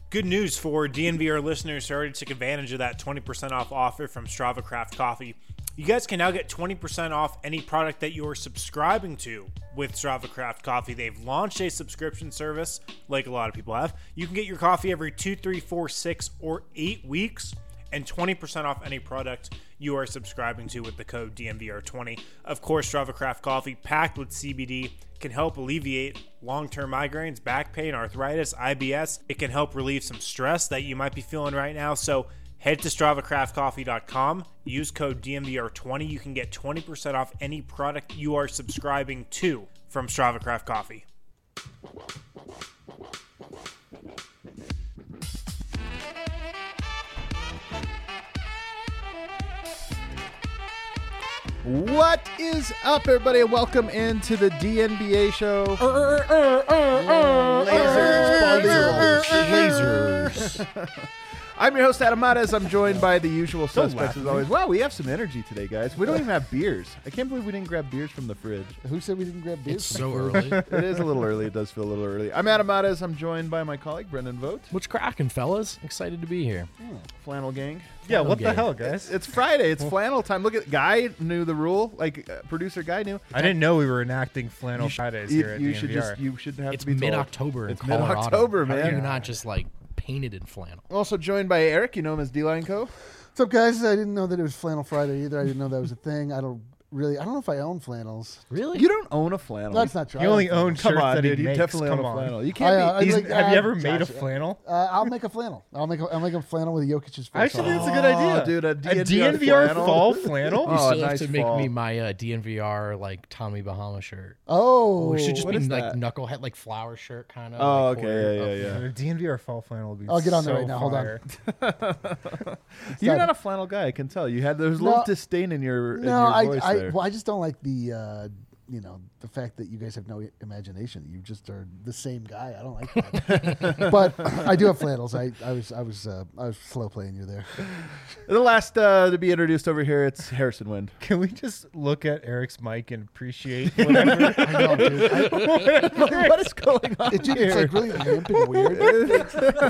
Good news for DNVR listeners who already took advantage of that 20% off offer from Strava Craft Coffee. You guys can now get 20% off any product that you're subscribing to with Strava Craft Coffee. They've launched a subscription service, like a lot of people have. You can get your coffee every 2, 3, 4, 6, or 8 weeks, and 20% off any product you are subscribing to with the code DNVR20. Of course, Strava Craft Coffee, packed with CBD, can help alleviate long-term migraines, back pain, arthritis, IBS. It can help relieve some stress that you might be feeling right now. So head to StravaCraftCoffee.com, use code DNVR20. You can get 20% off any product you are subscribing to from Strava Craft Coffee. What is up, everybody, and welcome into the DNBA show. Lasers. I'm your host, Adam Matas. I'm joined by the usual suspects as always. Wow, we have some energy today, guys. We don't even have beers. I can't believe we didn't grab beers from the fridge. Who said we didn't grab beers? It's so early. It is a little early. It does feel a little early. I'm Adam Matas. I'm joined by my colleague, Brendan Vogt. What's cracking, fellas? Excited to be here. Flannel gang. Yeah, what the gang. hell, guys? It's Friday. It's flannel time. Look at Guy knew the rule. Producer Guy knew. I didn't know we were enacting Flannel Fridays here at You DNVR. you should have It's to be told. mid-October in It's Colorado. mid-October, How man. are you not just painted in flannel? Also joined by Eric. You know him as D-Line Co. What's up, guys? I didn't know that it was Flannel Friday either. I didn't know that was a thing. I don't know if I own flannels. Really? You don't own a flannel. That's not true. You only own Come shirts on, that dude. he You makes. definitely Come own a on. flannel. You can't be. Have you ever made a flannel? I'll make a flannel. I'll make a flannel with Jokic's face. Actually, on that's it. a good idea. Dude, a A DNVR DNVR flannel? fall flannel? You Oh, still have nice to make fall. me my DNVR Tommy Bahama shirt. Oh, It should just what be is that? knucklehead, flower shirt kind of. Oh, okay. Yeah. A DNVR fall flannel would be I'll get on there so right now. Hold on. fire. You're not- not a flannel guy. I can tell. You had there's a No. little disdain in your No, voice there. I just don't like the the fact that you guys have no imagination. You just are the same guy. I don't like that. But I do have flannels. I was slow playing you there. The last to be introduced over here, it's Harrison Wind. Can we just look at Eric's mic and appreciate whatever? I know, dude. What is going on It's here? really limp and weird.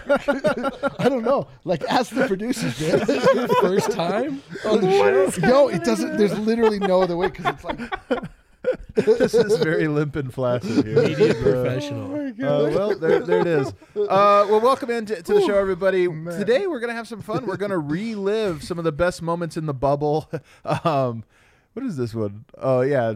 I don't know. Ask the producers, man. First time? Yo, it doesn't. There's literally no other way because it's like. This is very limp and flaccid here. Media professional. Well, there it is. Well, welcome into the show, everybody. Today we're gonna have some fun. We're gonna relive some of the best moments in the bubble. What is this one? Oh yeah.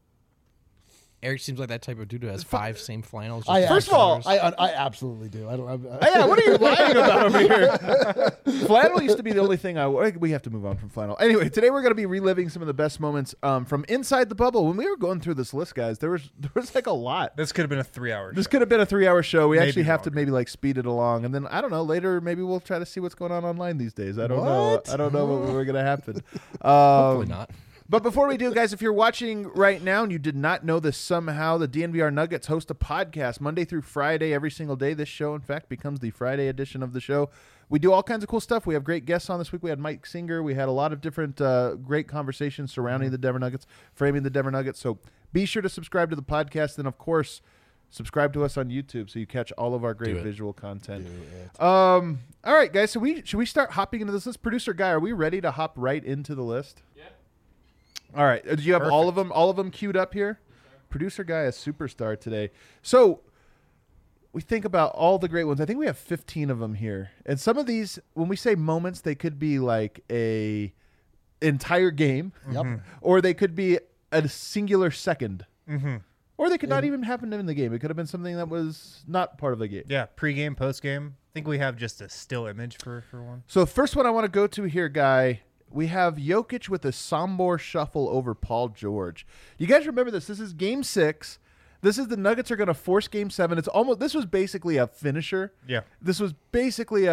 Eric seems like that type of dude who has 5 same flannels. First of all, I absolutely do. I don't. Yeah, what are you lying about over here? Flannel used to be the only thing we have to move on from flannel. Anyway, today we're going to be reliving some of the best moments from inside the bubble. When we were going through this list, guys, there was a lot. This could have been a 3-hour This show. could have been a 3-hour show. We Maybe actually have to longer. maybe speed it along, and then I don't know. Later, maybe we'll try to see what's going on online these days. I don't know. I don't know what we're going to happen. Hopefully not. But before we do, guys, if you're watching right now and you did not know this somehow, the DNVR Nuggets host a podcast Monday through Friday every single day. This show, in fact, becomes the Friday edition of the show. We do all kinds of cool stuff. We have great guests on this week. We had Mike Singer. We had a lot of different great conversations surrounding the Denver Nuggets, framing the Denver Nuggets. So be sure to subscribe to the podcast. And, of course, subscribe to us on YouTube so you catch all of our great visual content. All right, guys, so should we start hopping into this list? Producer Guy, are we ready to hop right into the list? Yeah. All right. Do you have all of them queued up here? Producer Guy, a superstar today. So we think about all the great ones. I think we have 15 of them here. And some of these, when we say moments, they could be like a entire game. Yep. Or they could be a singular second. Mm-hmm. Or they could not even happen in the game. It could have been something that was not part of the game. Yeah, pregame, postgame. I think we have just a still image for one. So the first one I want to go to here, Guy, we have Jokic with a Sombor shuffle over Paul George. You guys remember this? This is Game 6. This is the Nuggets are going to force Game 7. This was basically a finisher. Yeah. This was basically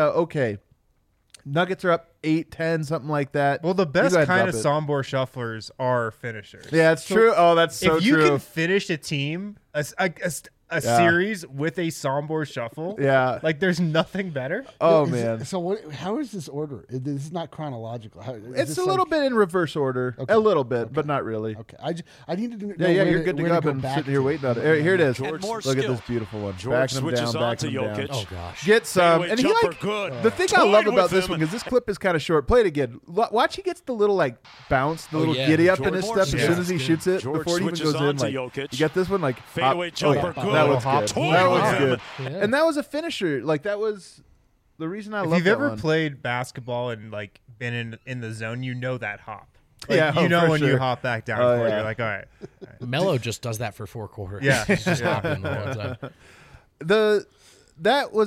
Nuggets are up 8-10, something like that. Well, the best You go ahead kind and of drop it. Sombor shufflers are finishers. Yeah, it's true. Oh, that's so if you true. can finish a team, a series with a Sombor shuffle. Yeah. Like there's nothing better. Oh Is it- man. So what? How is this order? This is not chronological. How, is It's this a little bit in reverse order. Okay. A little bit, but not really. Okay, I needed to know. Yeah, where you're good to where go. I've been back sitting here to. waiting on it. Here it is. And more Look at skill. this beautiful one. George Backing him switches down, on backing to him down. Jokic. Oh gosh. Get some, Fadeaway and he jumper, like good. the thing I Toyed love with about this him. one because this clip is kind of short. Play it again. Watch, he gets the little like bounce, the little yeah. giddy up George in his Morris. step as soon Yeah. as he shoots it. George Before it even switches goes on in, to like Jokic. you got this one like Fadeaway hop. jumper, Oh, good. that was Hop. good. Toyed That with was him. good. And that was a finisher. Like that was the reason I If love you've that ever one. played basketball and like been in the zone, you know that hop. Like, Yeah, you know for when sure. you hop back down Oh, for it, yeah. you're like, all right. Melo just does that for 4 quarters. Yeah. He's just Yeah. hopping the whole time. That was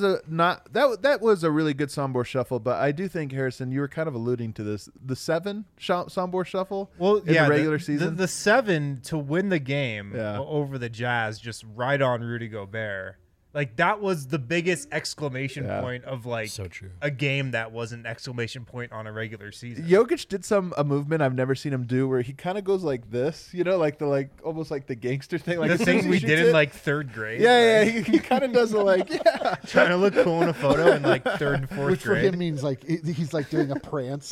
a really good Sombor shuffle, but I do think Harrison, you were kind of alluding to this. The 7 Sombor shuffle Well, in yeah, the regular season. the 7 to win the game Yeah. over the Jazz, just right on Rudy Gobert. Like that was the biggest exclamation Yeah. point of like So true. a game that was an exclamation point on a regular season. Jokic did a movement I've never seen him do where he kind of goes like this, like the almost like the gangster thing, like the as soon as thing he we shoots did it- in like 3rd grade. yeah, like, he kind of does the like yeah. trying to look cool in a photo in like 3rd and 4th Which for grade. him means like he's like doing a prance,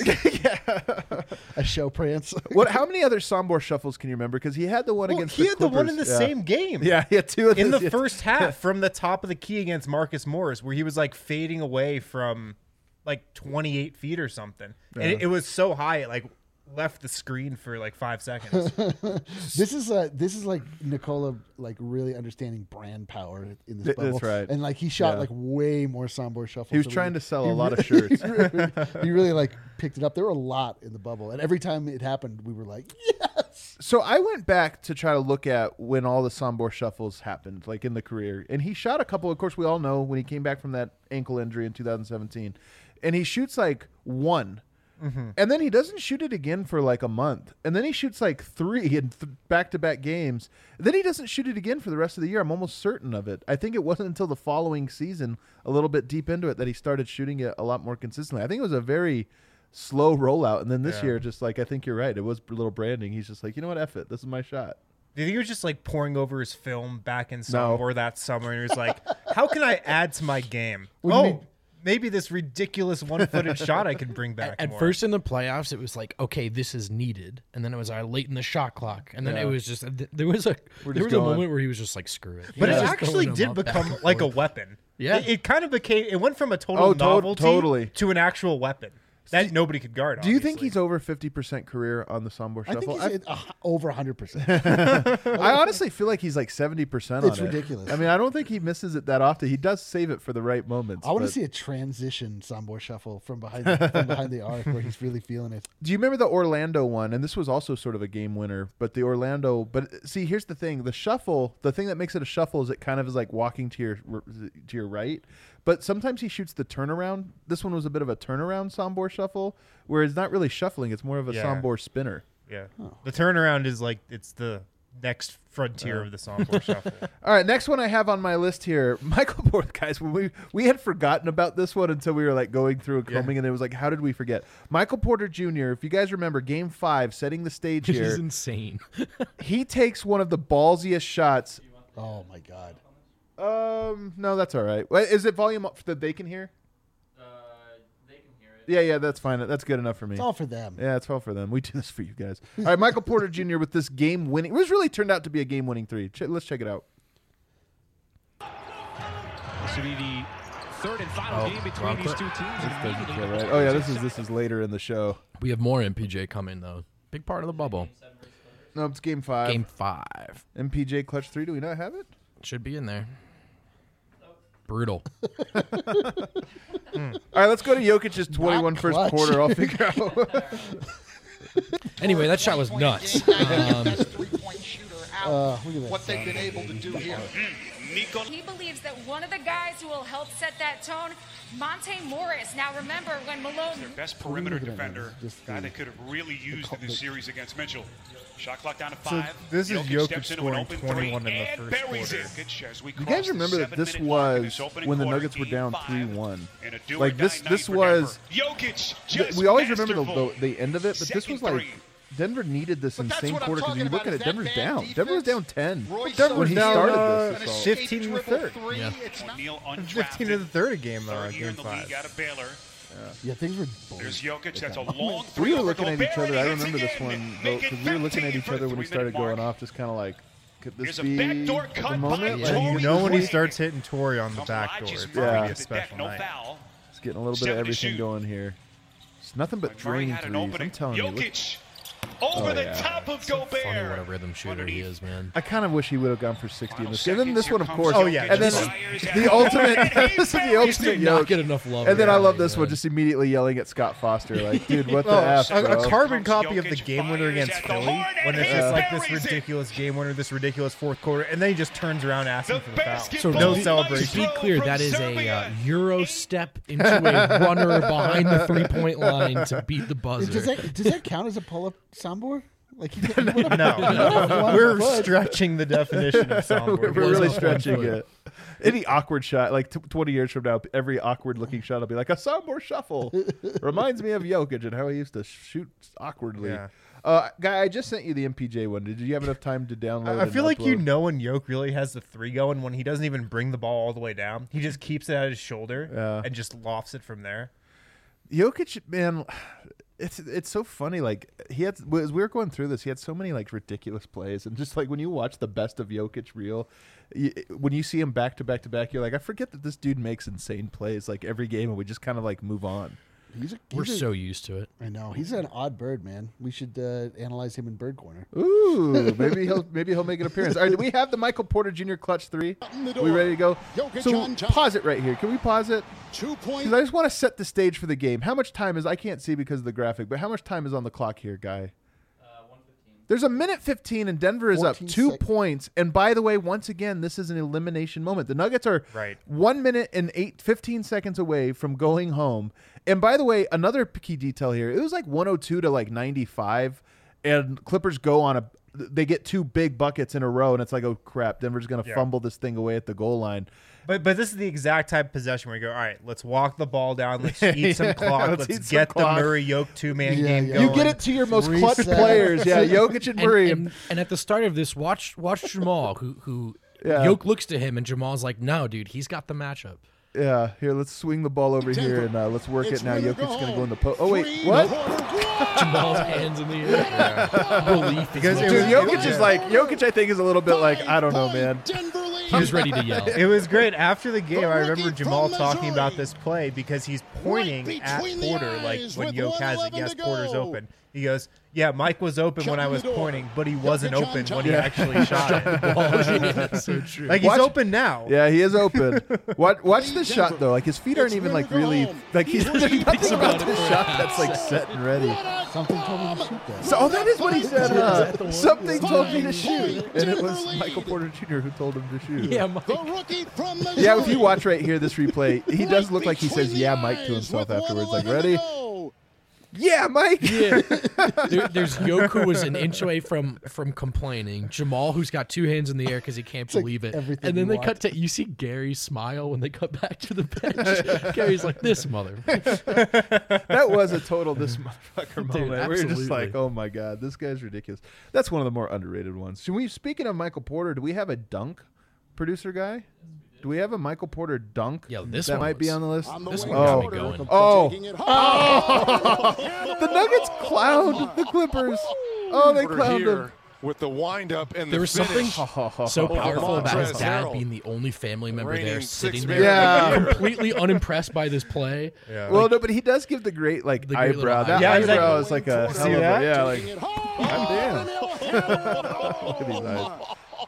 a show prance. What? How many other Sombor shuffles can you remember? Because he had the one Well, against he the had the one in the Clippers. same game. Yeah, he had 2 of In those. the first half, from the top of the key against Marcus Morris, where he was like fading away from like 28 feet or something, and it was so high it like left the screen for like 5 seconds. This is like Nikola like really understanding brand power in this That's bubble. right. And like he shot Yeah. like way more Sombor shuffles. He was than trying to sell a he lot of really- shirts. he really like picked it up. There were a lot in the bubble, and every time it happened, we were like, yes. So I went back to try to look at when all the Sombor shuffles happened, like in the career. And he shot a couple, of course, we all know when he came back from that ankle injury in 2017. And he shoots like 1. And then he doesn't shoot it again for like a month. And then he shoots like 3 in back-to-back games. Then he doesn't shoot it again for the rest of the year. I'm almost certain of it. I think it wasn't until the following season, a little bit deep into it, that he started shooting it a lot more consistently. I think it was a very slow rollout. And then this Yeah. year, just like, I think you're right. It was a little branding. He's just like, you know what? F it. This is my shot. Do you think he was just like pouring over his film back in No. Sombor that summer, and he was like, "How can I add to my game? What do you mean? Maybe this ridiculous one-footed shot I can bring back." At more. first in the playoffs, it was like, okay, this is needed, and then it was late in the shot clock, and then Yeah. it was just there was a just going. moment where he was just like, screw it. but He it was just actually throwing them did up back become and like a forth. weapon. Yeah. it kind of became. It went from a total Oh, novelty totally. to an actual weapon that nobody could guard. Do you think obviously. he's over 50% career on the Sombor I shuffle? think he's over 100%. I honestly feel like he's like 70% on It's it. ridiculous. I mean, I don't think he misses it that often. He does save it for the right moments. I want to but- see a transition Sombor shuffle from behind the arc where he's really feeling it. Do you remember the Orlando one? And this was also sort of a game winner, but the Orlando. But see, here's the thing: the shuffle. The thing that makes it a shuffle is it kind of is like walking to your right. But sometimes he shoots the turnaround. This one was a bit of a turnaround Sombor shuffle, where it's not really shuffling; it's more of a Yeah. Sombor spinner. Yeah, the turnaround is like it's the next frontier of the Sombor shuffle. All right, next one I have on my list here, Michael Porter. Guys, when we had forgotten about this one until we were like going through and combing, and it was like, how did we forget? Michael Porter Jr. If you guys remember, Game 5, setting the stage Which is here, insane. he takes one of the ballsiest shots. Oh my god. No, that's all right. Wait, is it volume up that they can hear? They can hear it. Yeah, that's fine. That's good enough for me. It's all for them. Yeah, it's all for them. We do this for you guys. All right, Michael Porter Jr. with this game-winning. It was really turned out to be a game-winning 3. Let's check it out. This will be the third and final game between wrong these clip. two teams. This and doesn't immediately feel right. Oh yeah, this is later in the show. We have more MPJ coming though. Big part of the bubble. No, it's Game 5. Game 5 MPJ Clutch 3. Do we not have it? should be in there. Brutal. All right, let's go to Jokic's 21 first clutch. quarter. I'll figure out. Anyway, that shot was nuts. Look at that. What they've been able to do here. He believes that one of the guys who will help set that tone, Monte Morris. Now remember when Malone... Their best perimeter Look at that, defender, just guy the- that could have really used in this series against Mitchell. Shot clock down to So 5. this is Jokic steps into an scoring open 21 three in the and first buries quarter. it. Jokic as we You cross guys the remember that this 7-minute mark in was this opening when the quarter, Nuggets were Game down 5, 3-1. and a do or Like die this night for was. Denver. Jokic just We always remember masterful. the end of it, but this was like Second Denver needed this insane quarter because you look at it, Denver's down. Denver was down 10 Denver when was he down started this. assault. 15 in the third. Yeah. 15 in the third of game Game 5. out of Baylor. Yeah, things were. There's Jokic. That's a long We three. were looking at each other. I remember this again. one Make it because we were looking at 15 each other when he for the started going 3-minute off, just kind of like, could this Here's a be backdoor the cut by moment? Torrey Like, You know when he Craig. starts hitting Torrey on the Comes back door, Elijah it's Smart going to to be a the special deck, no night. foul. it's getting a little bit of 70 everything shoot. going here. It's nothing but Murray drain had an threes. opening. I'm telling you. Look, Jokic over Oh, the yeah. top of Funny what a Gobert. rhythm shooter he is, man. I kind of wish he would have gone for 60 in this game. Final And then this seconds, one, of here course. comes Oh, yeah. And then Jokic. the ultimate. This is the He ultimate did not yoke. get enough love. And then I love man. this one, just immediately yelling at Scott Foster, like, dude, what the Oh, F, a bro? carbon copy of the Jokic game winner fires against at the Philly horn when and it's he just like this buries it. ridiculous game winner, this ridiculous fourth quarter, and then he just turns around asking The for the foul. basketball No maestro celebration. To be clear, from that is a Serbia. Euro step into a runner behind the 3-point line to beat the buzzer. Does that count as a pull-up soundboard? Like he did, No, we're stretching the definition of soundboard. We're Was really a stretching foot. it. Any awkward shot, like 20 years from now, every awkward-looking shot will be like a soundboard shuffle. Reminds me of Jokic and how he used to shoot awkwardly. Yeah. Guy, I just sent you the MPJ one. Did you have enough time to download? I and feel like you upload? know when Yoke really has the three going when he doesn't even bring the ball all the way down. He just keeps it at his shoulder Yeah. and just lofts it from there. Jokic, man, it's so funny. Like he had, as we were going through this, he had so many like ridiculous plays, and just like when you watch the best of Jokic reel, when you see him back to back to back, you're like, I forget that this dude makes insane plays like every game, and we just kind of like move on. We're so used to it. I know he's an odd bird, man. We should analyze him in Bird Corner. Ooh, maybe he'll make an appearance. All right, do we have the Michael Porter Jr. clutch three? We ready to go? So pause it right here. Can we pause it? 2 points. Because I just want to set the stage for the game. How much time is? I can't see because of the graphic, but how much time is on the clock here, Guy? 1:15. There's a minute 15, and Denver is up 14 2 seconds. points. And by the way, once again, this is an elimination moment. The Nuggets are Right. 1 minute and 15 seconds away from going home. And by the way, another key detail here: it was like 102 to like 95, and Clippers go on a. They get 2 big buckets in a row, and it's like, oh crap, Denver's going to fumble this thing away at the goal line. But this is the exact type of possession where you go, all right, let's walk the ball down, let's eat some clock, Let's let's eat some get clock. the Murray Yoke 2-man Yeah, game yeah. going. You get it to your most clutch Reset. players, yeah. Jokic and Murray. And at the start of this, watch Jamal, who Yeah. Yoke looks to him, and Jamal's like, "No, dude, he's got the matchup." Yeah, here, let's swing the ball over here and let's work It's it now. winner Jokic's go going to go home. in the post. Oh, wait, 3 what? quarters. Jamal's hands in the air. Relief. Because is it Dude, was- Jokic is like, Jokic I think is a little bit like, I don't know, man. Denver lead. he was ready to yell. It was great. After the game, I remember rookie Jamal from talking about Missouri. this play because he's pointing Right at between the Porter, like eyes when with Yoke has it. 1:11 Yes, to go. Porter's open. He goes, yeah, Mike was open when I was Shut the door. pointing, but he wasn't Jokic on open top. when he Yeah. actually shot it. So true. Like, he's Watch- open now. Yeah, he is open. Watch the Denver. shot, though. Like, his feet aren't It's even, like, winner go really, home. like, he's there's nothing about about this it. shot that's, like, set and ready. Something told me to shoot that. So, that is what he said. that the one? Something told me to Fine shoot. point, And it Denver was lead. Michael Porter Jr. who told him to shoot. Yeah, Mike. The rookie from Missouri. Yeah, if you watch right here, this replay, he does look like he says, Between yeah, the Mike, to eyes himself with afterwards. Like, 1:11 ready? to go. Yeah, Mike. Yeah. There's Yoke, who was an inch away from complaining. Jamal, who's got 2 hands in the air because he can't like believe it. everything And then you they cut to, you see Gary smile when they cut back to the bench. Gary's like, this mother. That was a total this motherfucker moment. Dude, We were just absolutely. like, oh my god, this guy's ridiculous. That's one of the more underrated ones. Should we? Speaking of Michael Porter, do we have a dunk, producer guy? Do we have a Michael Porter dunk? Yeah, this that one might be was- on the list. On the This way one got me Porter going. Oh. taking it home. The Nuggets clowned the Clippers. Oh, they clowned them. With the windup and There the was something finish. so powerful about his Montrezl dad Harrell. being the only family member Reigning there, sixth sitting man there, of the year. completely unimpressed by this play. Yeah. Well, no, but he does give the great like The great eyebrow. little That eyebrow. Yeah, he's like- eyebrow is like a See hell of a that? yeah. Like, Taking it home. goddamn. Look at these eyes.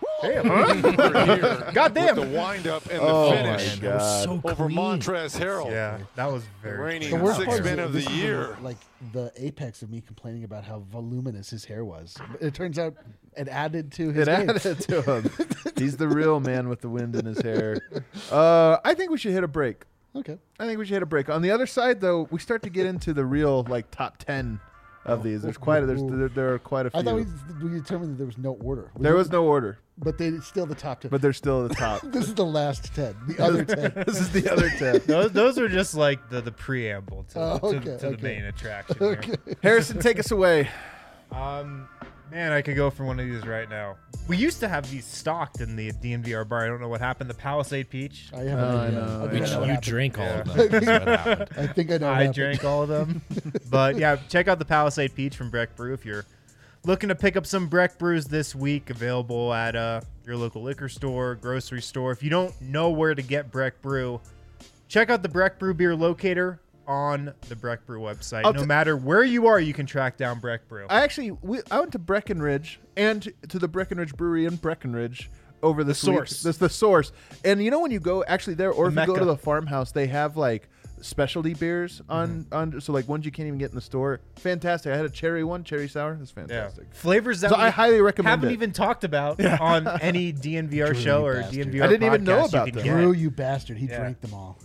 God damn. With the windup and Oh, the my finish. That was God. so Over clean. Montrezl Harrell. Yeah, that was very Reigning The worst part sixth is man that of the this is year. like the apex of me complaining about how voluminous his hair was. It turns out it added to his It game. added to him. He's the real man with the wind in his hair. I think we should hit a break. Okay. I think we should hit a break. On the other side, though, we start to get into the real like top 10 of these. There are quite a few. I thought we determined that there was no order. There was no order, But they still the top 10. but they're still at the top. This is the last 10. The other 10. This is the other 10. Those are just like the preamble to, Oh, to okay, the okay. main attraction. Here. Harrison, take us away. Man, I could go for one of these right now. We used to have these stocked in the DNVR bar. I don't know what happened. The Palisade Peach. I have an idea. know. I think I know what You happened. drank all of them. That's what happened. I think I know what I happened. drank all of them. But yeah, check out the Palisade Peach from Breck Brew if you're looking to pick up some Breck Brews this week. Available at your local liquor store, grocery store. If you don't know where to get Breck Brew, check out the Breck Brew beer locator on the Breck Brew website. No matter where you are, you can track down Breck Brew. I went to Breckenridge and to the Breckenridge Brewery in Breckenridge over the Source. That's the Source. And you know when you go actually there, or if you go Mecca. to the farmhouse, they have like specialty beers on so like ones you can't even get in the store. Fantastic. I had a cherry one, cherry sour. It's fantastic. Flavors that So we I highly recommend haven't it. even talked about on any DNVR Drew, show you or bastard. DNVR I didn't even know podcast about you can them. get. Drew, you bastard. He Yeah. drank them all.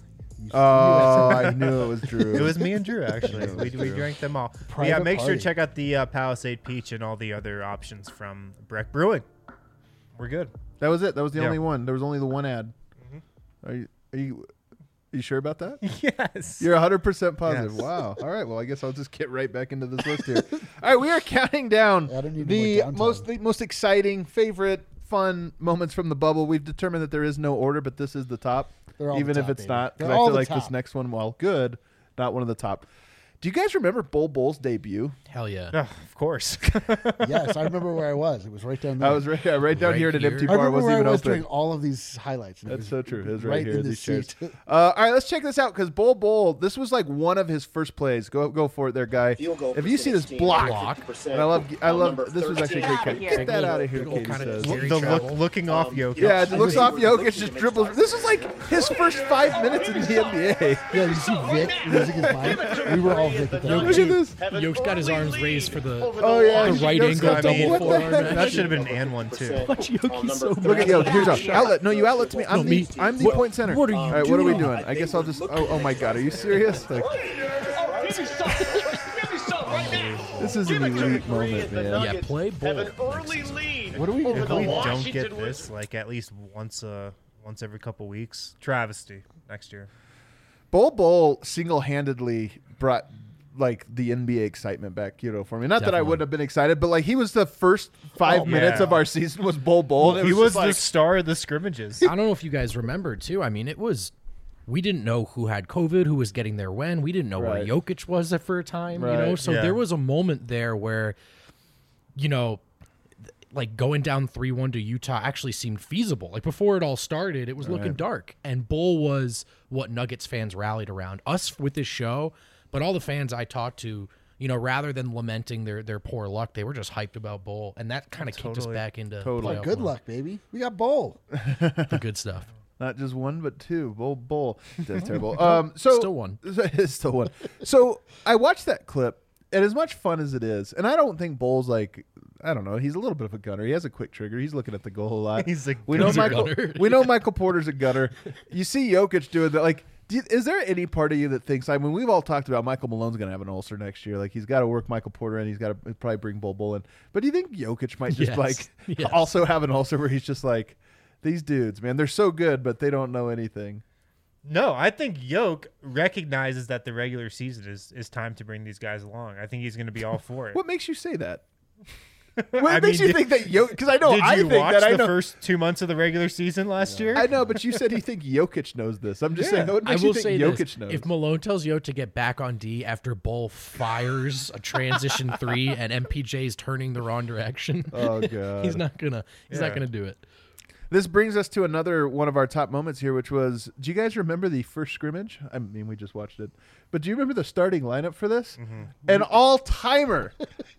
Oh, I knew it was Drew. It was me and Drew, actually. we drank them all. But yeah, Private make sure party. to check out the Palisade Peach and all the other options from Breck Brewing. We're good. That was it. That was the Yeah. only one. There was only the one ad. Are you sure about that? Yes. You're 100% positive. Yes. Wow. All right. Well, I guess I'll just get right back into this list here. All right, we are counting down I don't need the more downtime. most exciting, favorite, fun moments from the bubble. We've determined that there is no order, but this is the top, They're all even the if top, it's baby. not. They're Because I all feel the like this top. next one, while good, not one of the top. Do you guys remember Bull Bull's debut? Hell yeah. Oh, of course. Yes, I remember where I was. It was right down there. I was right down Right here at an here. empty I bar. remember Wasn't where I even was open. during all of these highlights. and it That's was so true. It was right here in in the these chairs. seat. All right, let's check this out because Bull, this was like one of his first plays. Go for it, there, guy. If you see this block, and I love. This was actually a great catch. Get that out of here, Big ol' Katie kinda says. Gary the Travel. looking off Jokic. Yeah, it looks off Jokic, just dribbles. This is like his first 5 minutes in the NBA. Yeah, you see Vic losing his mind? We were all Vic at that Look point. at this. Yoke's got his arms raised for the Oh yeah, the right Jokic angle got- double what the forearm heck? action. That should have been an and one, too. Look at Jokic. Here's a outlet. No, you outlet to me. I'm the point center. what are you All right, what are we doing? doing? I guess I'll just. Oh my God, are you serious? Like, this is an elite moment, man. Yeah, play ball. What do we do? If we don't get this, like, at least once every couple weeks, travesty next year. Bull single-handedly brought like the NBA excitement back, for me. Not that I Definitely. wouldn't have been excited, but like he was the first 5 minutes yeah. of our season was Bull. And it He was just the star of the scrimmages. I don't know if you guys remember too. I mean, we didn't know who had COVID, who was getting there when. We didn't know Right. where Jokic was for a time, Right. So Yeah. there was a moment there where, like going down 3-1 to Utah actually seemed feasible. Like before it all started, it was looking dark. And Bull was what Nuggets fans rallied around. Us with this show, but all the fans I talked to, rather than lamenting their poor luck, they were just hyped about Bull. And that kind of kicked us back into playoff Good mode. luck, baby. We got Bowl. The good stuff. not just one but two. Bull. That's terrible. So Still one. It's still one. So I watched that clip, and as much fun as it is, and I don't think Bull's like, I don't know, he's a little bit of a gunner. He has a quick trigger. He's looking at the goal a lot. He's a we know He's a Michael. gunner. We know Michael Porter's a gunner. You see Jokic doing that. Like, is there any part of you that thinks? I mean, we've all talked about Michael Malone's going to have an ulcer next year. Like, he's got to work Michael Porter, and he's got to probably bring Bull in. But do you think Jokic might just Yes. Yes. also have an ulcer where he's just like, these dudes, man, they're so good, but they don't know anything. No, I think Yoke recognizes that the regular season is time to bring these guys along. I think he's going to be all for it. What makes you say that? What I makes mean, you think that Jokic? Because I know Did I you think watch that I the know. first 2 months of the regular season last year? I know, but you said you think Jokic knows this. I'm just saying. What I makes will you think say Jokic this: knows? if Malone tells Yo to get back on D after Bull fires a transition 3 and MPJ's turning the wrong direction, Oh, God. he's not gonna do it. This brings us to another one of our top moments here, which was, do you guys remember the first scrimmage? I mean, we just watched it. But do you remember the starting lineup for this? Mm-hmm. An all-timer.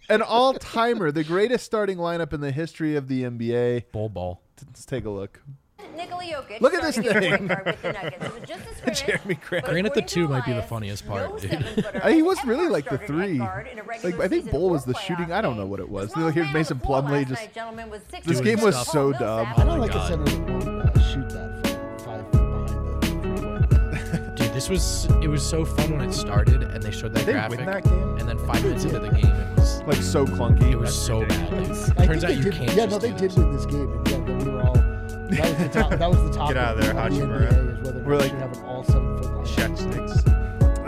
The greatest starting lineup in the history of the NBA. Bull ball. Let's take a look. Nikola Jokic. Look at this starting thing. at point guard with the Nuggets. It was just a scrimmage, Jeremy Grant. but Granted, the according 2 to might be the Elias, funniest no part, dude. 7-footer He was has really ever like the started at 3. guard in a regular Like, I think season Bull or was the playoff shooting. I don't know game. what it was. The smallest Here's man Mason on the floor Plumlee last just. night, gentlemen, was 6 This foot game was tall. so Will dumb. Sapp- I don't my like a God. center that won't shoot that from 5 feet behind the 3-point. Dude, it was so fun when it started and they showed that Did they graphic, win that game? and then 5 minutes into the game, it was Like, so clunky. it was so bad. I Turns out think you they can't. did. Yeah, just no, they do did this. win this game. And yeah, then we were all. That was the top. That was the top. Get out of there, the Hachimura. NBA is whether We're we like- should have an all 7-foot line. Shet sticks.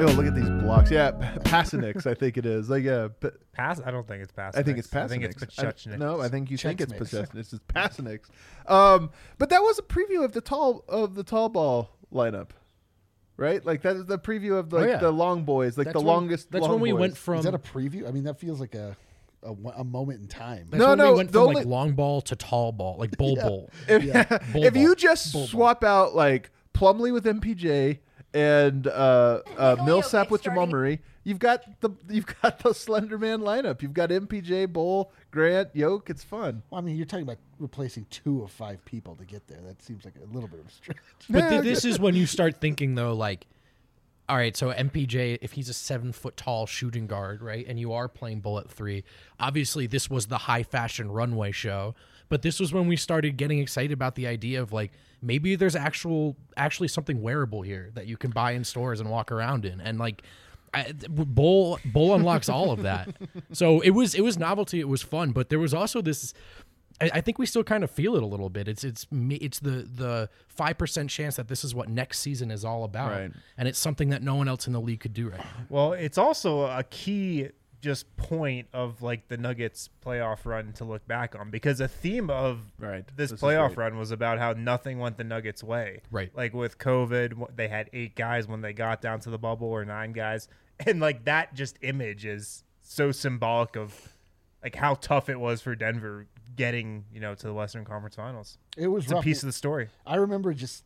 Oh, look at these blocks. Yeah, Pasanix, I think it is. Like, yeah. I don't think it's Pasanix. I think it's Pasanix. I think it's Pachechnik. No, I think you think it's Chex-Mix. Pasanix. It's Pasanix. But that was a preview of the tall ball lineup, right? Like that is the preview of like the long boys, like That's the when- longest. That's long when we boys. went from. Is that a preview? I mean, that feels like a moment in time. That's No, when no, we went the from only- like long ball to tall ball, like bull bowl. If, Bull if ball. you just swap out like Plumlee with MPJ and Millsap with Jamal Murray, you've got the Slender Man lineup. You've got MPJ, Bull, Grant, Yoke. It's fun. Well, I mean, you're talking about replacing 2 of 5 people to get there. That seems like a little bit of a stretch. But this is when you start thinking though, like, all right, so MPJ, if he's a 7-foot tall shooting guard, right, and you are playing Bull at 3, obviously this was the high fashion runway show. But this was when we started getting excited about the idea of like maybe there's actually something wearable here that you can buy in stores and walk around in, and like Bull unlocks all of that. So it was novelty, it was fun, but there was also this. I think we still kind of feel it a little bit. It's the 5% chance that this is what next season is all about, Right. and it's something that no one else in the league could do right now. Well, it's also a key just point of like the Nuggets playoff run to look back on, because a theme of this is playoff great. run was about how nothing went the Nuggets' way. Right. Like with COVID, they had 8 guys when they got down to the bubble, or 9 guys. And like that just image is so symbolic of like how tough it was for Denver getting, to the Western Conference Finals. It was it's rough. a piece of the story. I remember just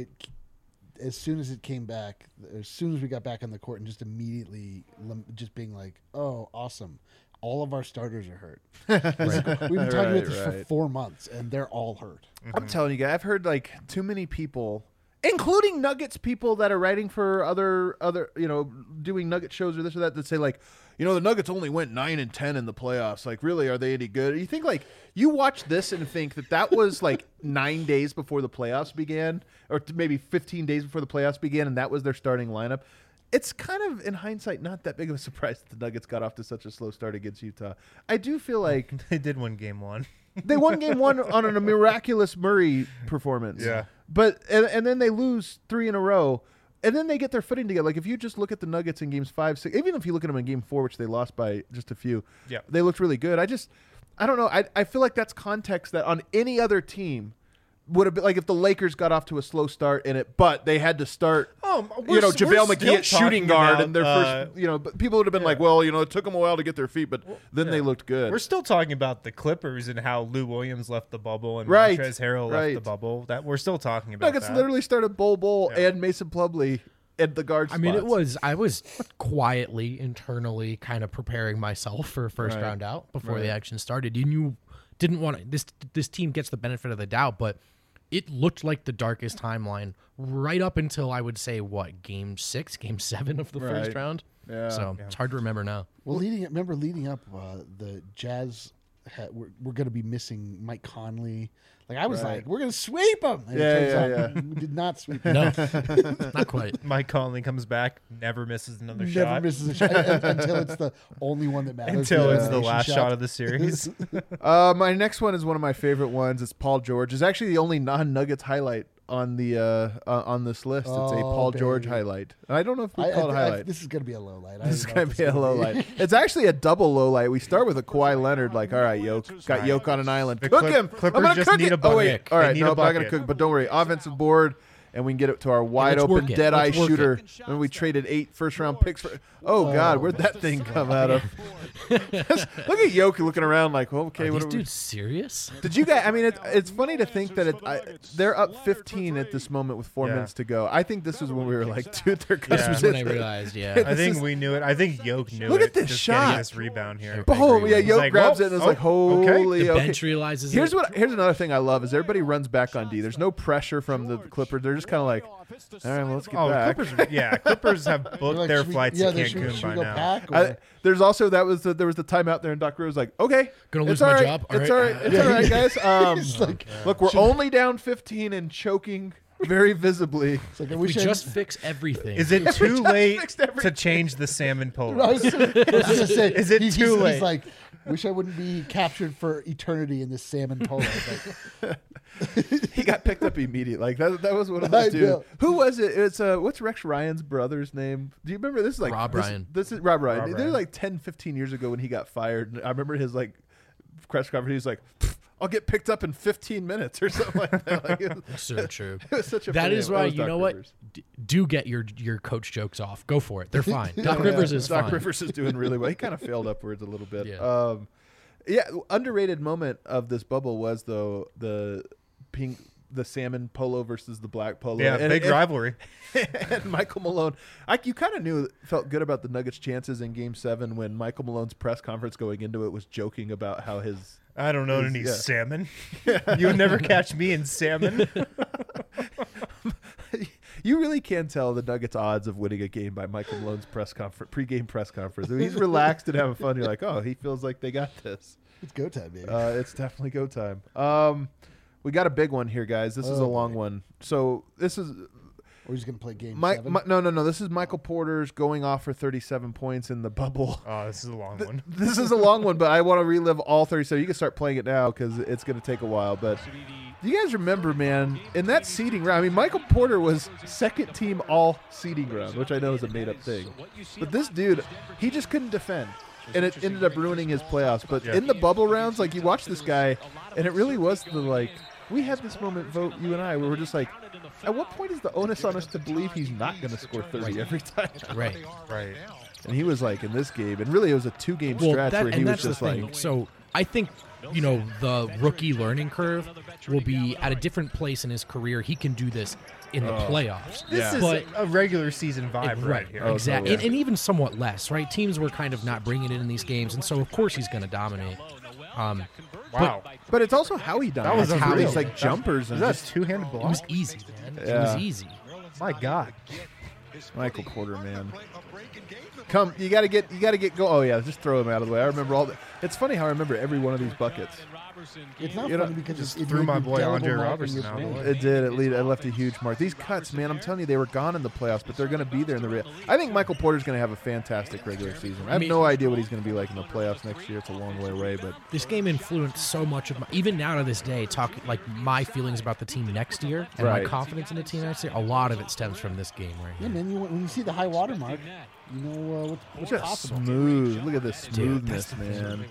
as soon as it came back, as soon as we got back on the court, and just immediately just being like, "Oh, awesome! All of our starters are hurt." We've been talking about this for 4 months, and they're all hurt. I'm telling you guys, I've heard like too many people, including Nuggets people that are writing for other doing Nugget shows or this or that say like, the Nuggets only went 9-10 in the playoffs. Like, really, are they any good? You think like you watch this and think that was like 9 days before the playoffs began, or maybe 15 days before the playoffs began, and that was their starting lineup. It's kind of, in hindsight, not that big of a surprise that the Nuggets got off to such a slow start against Utah. I do feel like they did win game 1. They won game 1 on a miraculous Murray performance. Yeah. But and then they lose 3 in a row, and then they get their footing together. Like if you just look at the Nuggets in games 5, 6, even if you look at them in game 4, which they lost by just a few, they looked really good. I don't know. I feel like that's context that on any other team would have been like if the Lakers got off to a slow start in it, but they had to start, JaVale McGee at shooting guard and their first, but people would have been like, well, it took them a while to get their feet, but then they looked good. We're still talking about the Clippers and how Lou Williams left the bubble and Right. Montrezl Harrell left the bubble. That we're still talking about. Nuggets that. literally started Bull and Mason Plumlee at the guard I mean, spots. I was quietly, internally kind of preparing myself for first Right. round out before Right. the action started. You didn't want to, this team gets the benefit of the doubt, but it looked like the darkest timeline right up until I would say game 6, game 7 of the first Right. round. Yeah. So it's hard to remember now. Well, leading up, the Jazz we're going to be missing Mike Conley. Like I was like, we're going to sweep them. And it turns out we did not sweep them. No, not quite. Mike Conley comes back, never misses another Never shot. misses a shot until it's the only one that matters. Until it's the last shot of the series. My next one is one of my favorite ones. It's Paul George. It's actually the only non-Nuggets highlight on the on this list. It's a Paul George highlight. I don't know if we call it a highlight. This is going to be a low light. This is going to be a low light. It's actually a double low light. We start with a Kawhi Leonard, like, all right, got Yoke on an island. Cook him. Clippers I'm going to just cook need it. a bucket. Oh, wait. All They right, need no, a I'm not going to bucket. cook, but don't worry. Offensive board, and we can get it to our wide let's open, work it. dead eye Let's work shooter. it. And we traded 8 first-round picks for. Oh, God, where'd that thing come out of? Look at Yoke looking around like, well, okay, Are what these are we? dudes serious? Did you guys? I mean, it's funny to think that they're up 15 at this moment with 4 minutes to go. I think this was when we were like, dude, they're This gonna was when I realized, I think we knew it. I think Yoke knew it. Look at this just shot. Getting this rebound here. Oh yeah, He's Yoke like, grabs "Whoa, it and is oh, like, holy. okay." The okay. bench realizes Here's it. Here's another thing I love is everybody runs back on D. There's no pressure from the Clippers. They're just kind of like, all right, well, let's get back. Clippers have booked Like, their should we- flights yeah, to they should- Cancun should by we go now. back, or- There's also there was the timeout there, and Doc Rose like, okay, Gonna it's lose my all right, job? It's All all right. right. It's all right, guys. He's like, Look, we're only down 15 and choking very visibly. It's like, I We wish I just fix everything. Is it too late fixed everything. to change the salmon I polo? was going to say, Is it too late? He's like, Wish I wouldn't be captured for eternity in this salmon polo. But He got picked up immediately. Like that was one of those dudes. know. Who was it? It's what's Rex Ryan's brother's name? Do you remember this? Is like Rob Ryan. This is Rob Ryan. Rob They're Ryan. like 10, 15 years ago when he got fired. And I remember his like press conference. He was like, "I'll get picked up in 15 minutes or something like that." Like, it was, So true. it was such a. That funny is name. why was you Doc know what? Rivers. Do get your coach jokes off. Go for it. They're fine. Doc Yeah, Rivers is Doc fine. Rivers is doing really well. He kind of failed upwards a little bit. Yeah. Yeah. Underrated moment of this bubble was though the salmon polo versus the black polo. Yeah, big rivalry. And Michael Malone, you kind of felt good about the Nuggets' chances in Game 7 when Michael Malone's press conference going into it was joking about how his. I don't know any yeah. salmon. You would never catch me in salmon. You really can tell the Nuggets' odds of winning a game by Michael Malone's pregame press conference. I mean, he's relaxed and having fun. You're like, oh, he feels like they got this. it's go time, baby. It's definitely go time. We got a big one here, guys. This is a long one. So this is We're just gonna play game Mike. 7. No. This is Michael Porter's going off for 37 points in the bubble. Oh, this is a long one. This is a long one, but I want to relive all 37. You can start playing it now because it's going to take a while. But do you guys remember, man, in that seeding round? I mean, Michael Porter was second team all seeding round, which I know is a made up thing. But this dude, he just couldn't defend. And it ended up ruining his playoffs. But in the bubble rounds, like you watch this guy, and it really was the like, we had this moment, Vote, you and I, where we're just like, at what point is the onus on us to believe he's not going to score 30 every time? Right. Right. And he was like in this game, and really it was a 2-game stretch where he was just like. So I think, the rookie learning curve will be at a different place in his career. He can do this in the playoffs. This is But a regular season vibe right here. Exactly. totally. And even somewhat less, right? Teams were kind of not bringing it in these games, and so of course he's going to dominate. Wow. But it's also how he done That it. was It's unreal. these like jumpers and That's just two-handed It block. was easy, man. It Yeah. was easy. My God. Michael Porter, man. Come, you gotta get go. Oh yeah, just throw him out of the way. I remember all. It's funny how I remember every one of these buckets. It's not You know, funny because just it threw made my an boy indelible Andre mark in Robertson your out of the brain. way. It did. It left a huge mark. These cuts, man. I'm telling you, they were gone in the playoffs, but they're going to be there in the real. I think Michael Porter's going to have a fantastic regular season. I have no idea what he's going to be like in the playoffs next year. It's a long way away, but This game influenced so much of my, even now to this day, talking like my feelings about the team next year and my Right. confidence in the team next year. A lot of it stems from this game right Yeah, here. man. When you see the high water mark, you know what's just possible. smooth. Look at this smoothness, man.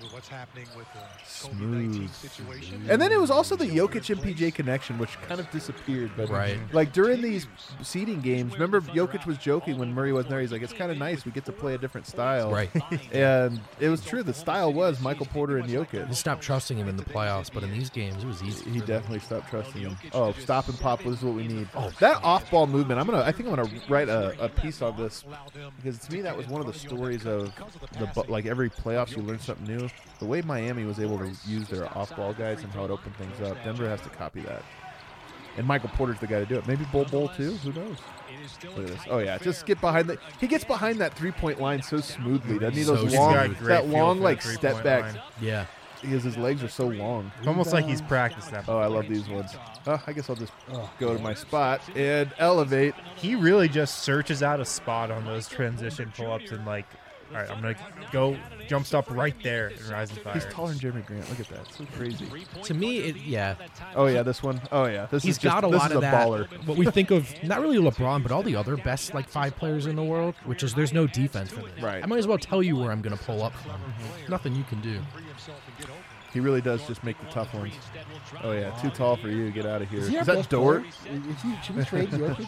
Smooth. And then it was also the Jokic MPJ connection, which kind of disappeared. But Right. like during these seeding games, remember Jokic was joking when Murray wasn't there. He's like, "It's kind of nice. We get to play a different style." Right. And it was true. The style was Michael Porter and He Jokic. stopped trusting him in the playoffs, but in these games, it was easy. He definitely stopped trusting him. Oh, stop and pop was what we need. Oh, that off-ball movement. I think I'm gonna write a piece on this because to me that was one of the stories of like every playoffs you learn something new. The way Miami was able to use their off-ball guys and how it opened things up. Denver has to copy that. And Michael Porter's the guy to do it. Maybe Bull too. Who knows? Look at this. Oh yeah, just get behind he gets behind that 3-point line so smoothly. Doesn't he? So Those smooth. long, He's got a great that feel long for like the step three-point back. line. Yeah. Because his legs are so long. It's almost like he's practiced that. Oh, I love these ones. I guess I'll just go to my spot and elevate. He really just searches out a spot on those transition pull-ups and like, all right, I'm going to go jump stop right there and rise and fire. He's taller than Jeremy Grant. Look at that. It's so crazy. To me, yeah. Oh, yeah, this one. Oh, yeah. This He's is just, got a this lot is of a that. baller. What we think of, not really LeBron, but all the other best like 5 players in the world, which is there's no defense for this. Right. I might as well tell you where I'm going to pull up from. Nothing you can do. He really does just make the tough ones. Oh, yeah. Too tall for you. Get out of here. Is he our Is that best Dort? player? Should we trade Jokic?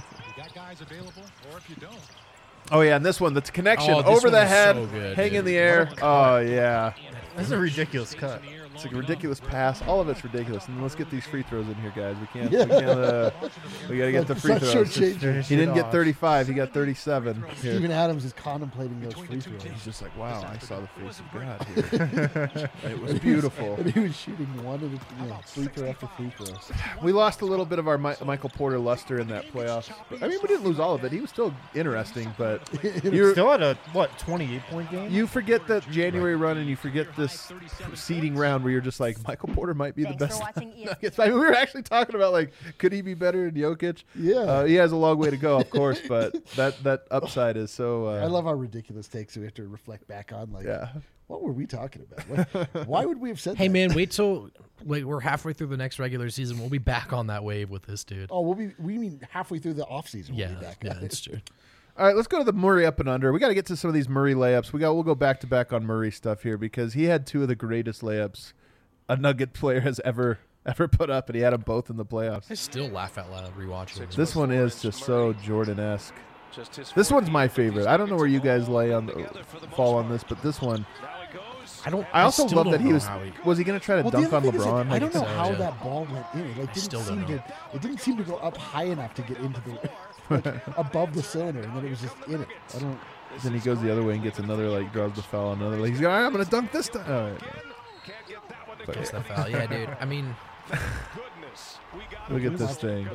Oh, yeah, and this one, the connection Oh, this over one the was head, so good, hang dude. in the air. Oh, yeah. That's a ridiculous cut. It's like a ridiculous pass. All of it's ridiculous. And let's get these free throws in here, guys. We can't. Yeah. We got to get the free Let's throws. shortchange He didn't get 35. He got 37. Here. Steven Adams is contemplating those free throws. He's just like, wow, I saw the face of God here. It was beautiful. And he was shooting one of the free throw after free throw. We lost a little bit of our Michael Porter luster in that playoff. I mean, we didn't lose all of it. He was still interesting, but you Still had a 28-point game? you forget that January run and you forget this seeding round where you're just like, Michael Porter might be Thanks the for best. watching ESPN. Nuggets. I mean, we were actually talking about like, could he be better than Jokic? Yeah. He has a long way to go, of course, but that upside is so. I love our ridiculous takes we have to reflect back on. Like, Yeah. what were we talking about? Why would we have said Hey that? man, wait till we're halfway through the next regular season. We'll be back on that wave with this dude. Oh, we mean halfway through the offseason. Yeah, We'll be back. yeah, that's true. All right, let's go to the Murray up and under. We got to get to some of these Murray layups. We'll go back to back on Murray stuff here because he had two of the greatest layups a Nugget player has ever put up, and he had them both in the playoffs. I still laugh out loud rewatching it. This one is just so Jordan-esque. This one's my favorite. I don't know where you guys fall on this, but this one. I also still love that don't he know was. how he- Was he going to try to dunk on LeBron? I don't know so, how yeah. that ball went in. It like, still don't know. it didn't seem to go up high enough to get into the like, above the cylinder, and then it was just in it. I don't. Then he goes the other way and gets another, draws the foul on another. He's going, I'm going to dunk this time. All right. But, Gets the foul. Yeah, dude. I mean, look at this thing.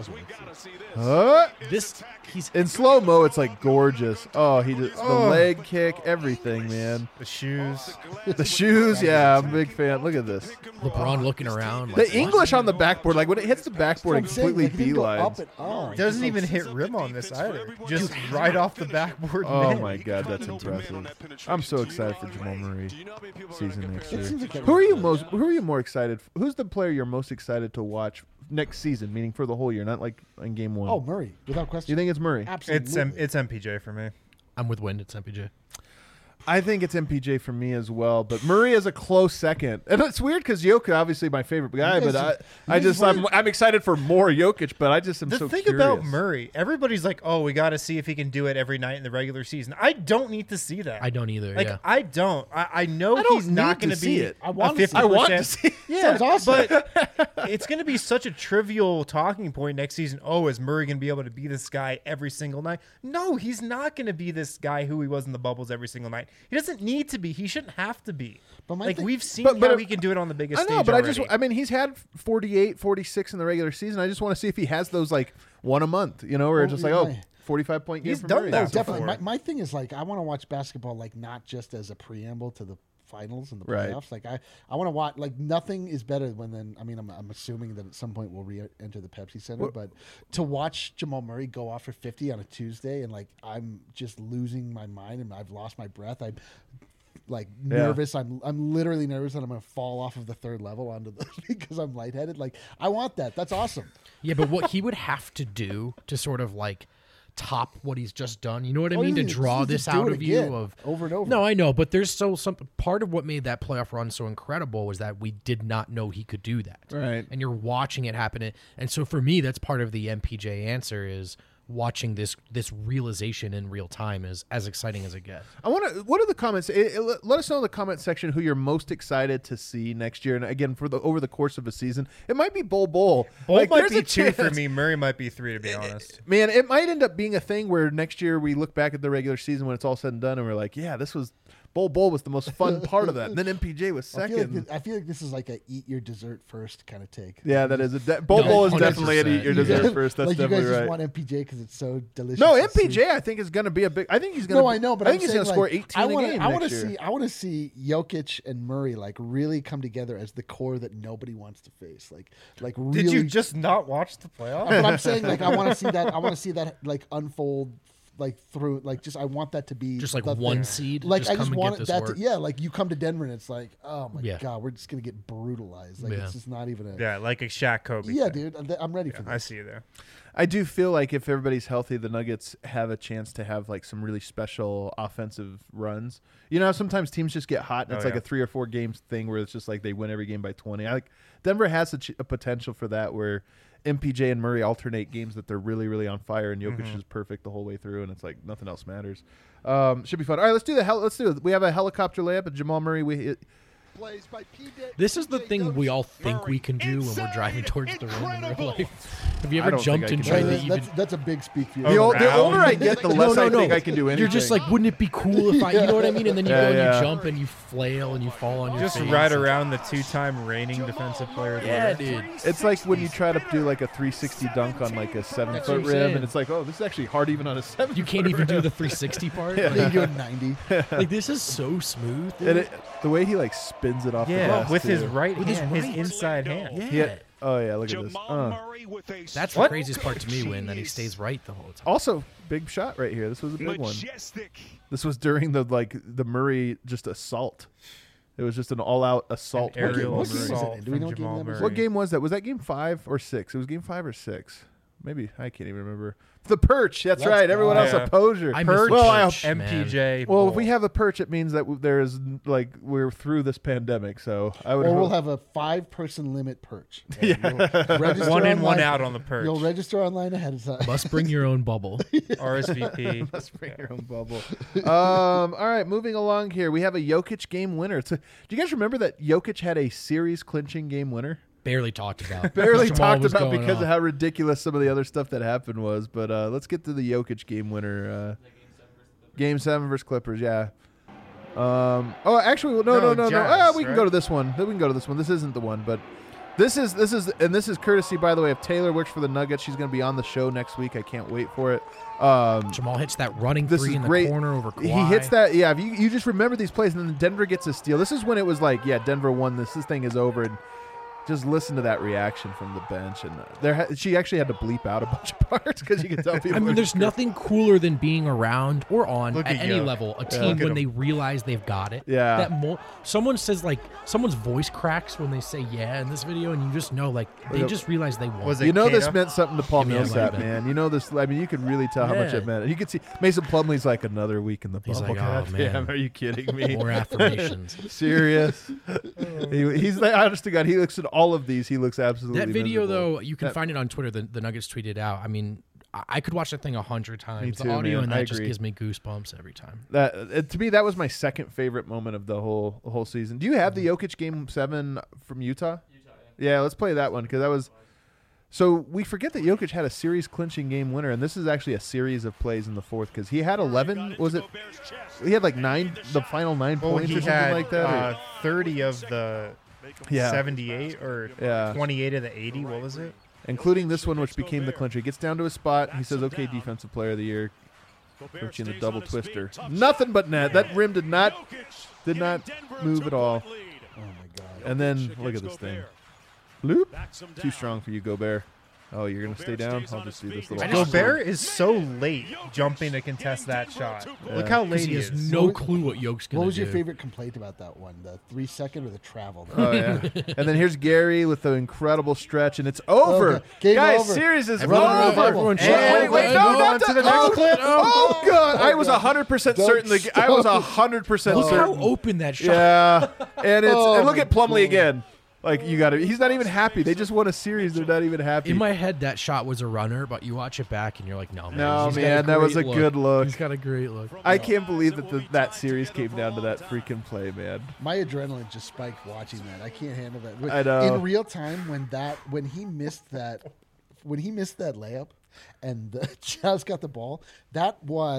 he's in slow mo. It's like gorgeous. Oh, the leg kick, everything, man. The shoes. The shoes. Yeah, I'm a big fan. Look at this. LeBron looking around. The English on the backboard, like when it hits the backboard, it That's what I'm saying, completely like, it didn't go up beelines. at all. Doesn't even hit rim on this either. Just right off the backboard. Oh net. my God, that's impressive. I'm so excited for Jamal Murray season next year. seems like that Who are was you more excited? Who's the player you're most excited to watch next season? Meaning for the whole year, not like in game one. Oh, Murray, without question. You think it's Murray? Absolutely. It's MPJ for me. I'm with Wind. It's MPJ. I think it's MPJ for me as well, but Murray is a close second. And it's weird because Jokic, obviously my favorite guy, but I'm excited for more Jokic, but I just am The so thing curious. about Murray, everybody's like, oh, we got to see if he can do it every night in the regular season. I don't need to see that. I don't either. Like, yeah. I don't. I know I don't he's not need going to be see it. I want a to see 50%. it. I want to see it. Yeah, Sounds awesome. but it's going to be such a trivial talking point next season. Oh, is Murray going to be able to be this guy every single night? No, he's not going to be this guy who he was in the bubbles every single night. He doesn't need to be. He shouldn't have to be. But my like thing- we've seen but how he can do it on the biggest I know, stage but already. he's had 48, 46 in the regular season. I just want to see if he has those like one a month, where Well, it's just like, yeah. 45-point game He's for done Murray. that No, That's definitely. before. My thing is like I want to watch basketball like not just as a preamble to the finals and the Right. playoffs. Like I want to watch like nothing is better when then. I mean, I'm assuming that at some point we'll re-enter the Pepsi Center, but to watch Jamal Murray go off for 50 on a Tuesday and like I'm just losing my mind and I've lost my breath. I'm like nervous. I'm literally nervous that I'm going to fall off of the third level onto the because I'm lightheaded. Like I want that. That's awesome. Yeah, but what he would have to do to sort of like top what he's just done, you know what I mean? To draw this out of you of over and over. No, I know, but there's still some part of what made that playoff run so incredible was that we did not know he could do that. Right. And you're watching it happen. And so for me, that's part of the MPJ answer is watching this realization in real time is as exciting as it gets. What are the comments? Let us know in the comment section who you're most excited to see next year. And again, over the course of a season, it might be Bol. Bolt might there's be a 2 for chance. me. Murray might be 3, to be honest. Man, it might end up being a thing where next year we look back at the regular season when it's all said and done, and we're like, yeah, this was Bol was the most fun part of that. And then MPJ was second. I feel like this is like a eat your dessert first kind of take. Yeah, that is Bol is 100%. definitely an eat your dessert first. That's like definitely you guys right. just want MPJ because it's so delicious. No, and sweet. MPJ I think is going to be a big. I think he's going to. No, I know, but I think he's going to score 18 a game I want next to year. see. I want to see Jokic and Murray like really come together as the core that nobody wants to face. Like really. Did you just not watch the playoffs? But I'm saying like I want to see that. I want to see that like unfold. Like through, like just I want that to be Just like the one thing. seed, Like just I come just and want get this that. work. Yeah, like you come to Denver and it's like, oh my Yeah. god, we're just gonna get brutalized. Like Yeah. it's just not even a. Yeah, like a Shaq Kobe. Yeah, thing. dude, I'm ready for I this. see you there. I do feel like if everybody's healthy, the Nuggets have a chance to have like some really special offensive runs. You know, sometimes teams just get hot and it's like a 3 or 4 games thing where it's just like they win every game by 20. Denver has a potential for that where MPJ and Murray alternate games that they're really, really on fire and Jokic is perfect the whole way through and it's like nothing else matters. Should be fun. All right, let's do it. We have a helicopter layup at Jamal Murray. This is the thing we all think we can do when we're driving towards the rim in real life. Have you I ever don't jumped think and I can tried do to that. even... That's a big speak for you. The older I get, the less I think I can do anything. You're just like, wouldn't it be cool if I... You know what I mean? And then you Yeah, go and yeah. you jump and you flail and you fall on your Just face. right around the 2-time reigning defensive player of the Yeah, year. dude. It's like when you try to do like a 360 dunk on like a 7-foot what I'm rim, saying. and it's like, oh, this is actually hard even on a 7. You can't even do the 360 part. They do it 90. Like, this is so smooth. And the way he like spins spins it off the Yeah, glass, with his too. right With his hand, his right. inside hand. Yeah. Oh, yeah, look at this. That's the craziest part to me, when that he stays right the whole time. Also, big shot right here. This was a big one. This was during the Murray just assault. It was just an all-out assault. An aerial What game is it? assault Do we from know what game Jamal that was? Murray. What game was that? Was that game 5 or 6? It was game 5 or 6. Maybe. I can't even remember. The Perch. That's Let's right. go. Everyone else Yeah. a poser. I Perch. miss Well, I Perch, man. MPJ. Well, if Bowl. we have a Perch, it means that there's we're through this pandemic. So I would. Or we'll hope- have a 5-person limit perch. You'll register one in, one online- out on the perch. You'll register online ahead of time. Must bring your own bubble. RSVP. Let's bring your own bubble. All right, moving along here. We have a Jokic game winner. Do you guys remember that Jokic had a series clinching game winner? Barely talked about. Barely Jamal talked was about going because off. of how ridiculous some of the other stuff that happened was. But let's get to the Jokic game winner. Game 7 versus Clippers, yeah. Actually, no. Jazz, We can right? go to this one. We can go to this one. This isn't the one, but this is courtesy, by the way, of Taylor. Works for the Nuggets. She's going to be on the show next week. I can't wait for it. Jamal hits that running This three is in the great. corner over Kawhi. He hits that. Yeah, if you just remember these plays, and then Denver gets a steal. This is when it was like, yeah, Denver won this. This thing is over. And just listen to that reaction from the bench. And she actually had to bleep out a bunch of parts because you can tell people. I mean, there's nothing cooler than being around or on Look at at any Yoke. level a Look team at when him. they realize they've got it. Yeah. Someone says someone's voice cracks when they say yeah in this video, and you just know they just realize they won. Was it You know this Kata? meant something to Paul Yeah, it might Millsap, have been. man. You know this. I mean, you could really tell how much Yeah. it meant. You could see Mason Plumlee's like another week in the He's bubble. like, oh, God man. damn, are you kidding me? More affirmations. Serious. He's like, honest to God, he looks at all of these. He looks absolutely That video, miserable. though, you can That- find it on Twitter. The Nuggets tweeted out. I mean, I could watch that thing 100 times. too, The audio man. and I that just agree. gives me goosebumps every time. To me, that was my second favorite moment of the whole season. Do you have the Jokic Game 7 from Utah? Yeah, let's play that one because that was. So we forget that Jokic had a series clinching game winner, and this is actually a series of plays in the fourth because he had 11. Was it? He had like 9, the final 9 Well, points he or something had like that. or- 30 of the Yeah. 78 or Yeah. 28 of the 80. What was it? Including this one, which became the clincher. He gets down to his spot. He says, "Okay, Defensive Player of the Year." Puts you in the double twister. Nothing but net. That rim did not move at all. Oh my god. And then look at this thing. Loop. Too strong for you, Gobert. Oh, you're gonna stay down. I'll just do this little. Gobert is so late jumping to contest that shot. Look how late He he has is. no clue what Yoke's going to do. What was your favorite complaint about that one? The 3-second or the travel? Oh yeah. And then here's Gary with the incredible stretch, and it's over. Okay, game Guys, over. series is Everyone- over. everyone Hey, shut wait, up. wait, no, Move not on to that- the next clip. Oh god, I was 100% Don't certain. I was 100% Look how certain. open that shot. Yeah, and it's Oh and look my at Plumlee God. again. Like you got to. He's not even happy. They just won a series. They're not even happy. In my head, that shot was a runner, but you watch it back and you're like, no, man. No, he's got man, that was great a good look. He's got a great look. I can't believe that that series came down to that freaking play, man. My adrenaline just spiked watching that. I can't handle that. I know. In real time, when he missed that layup, and the Jazz got the ball, that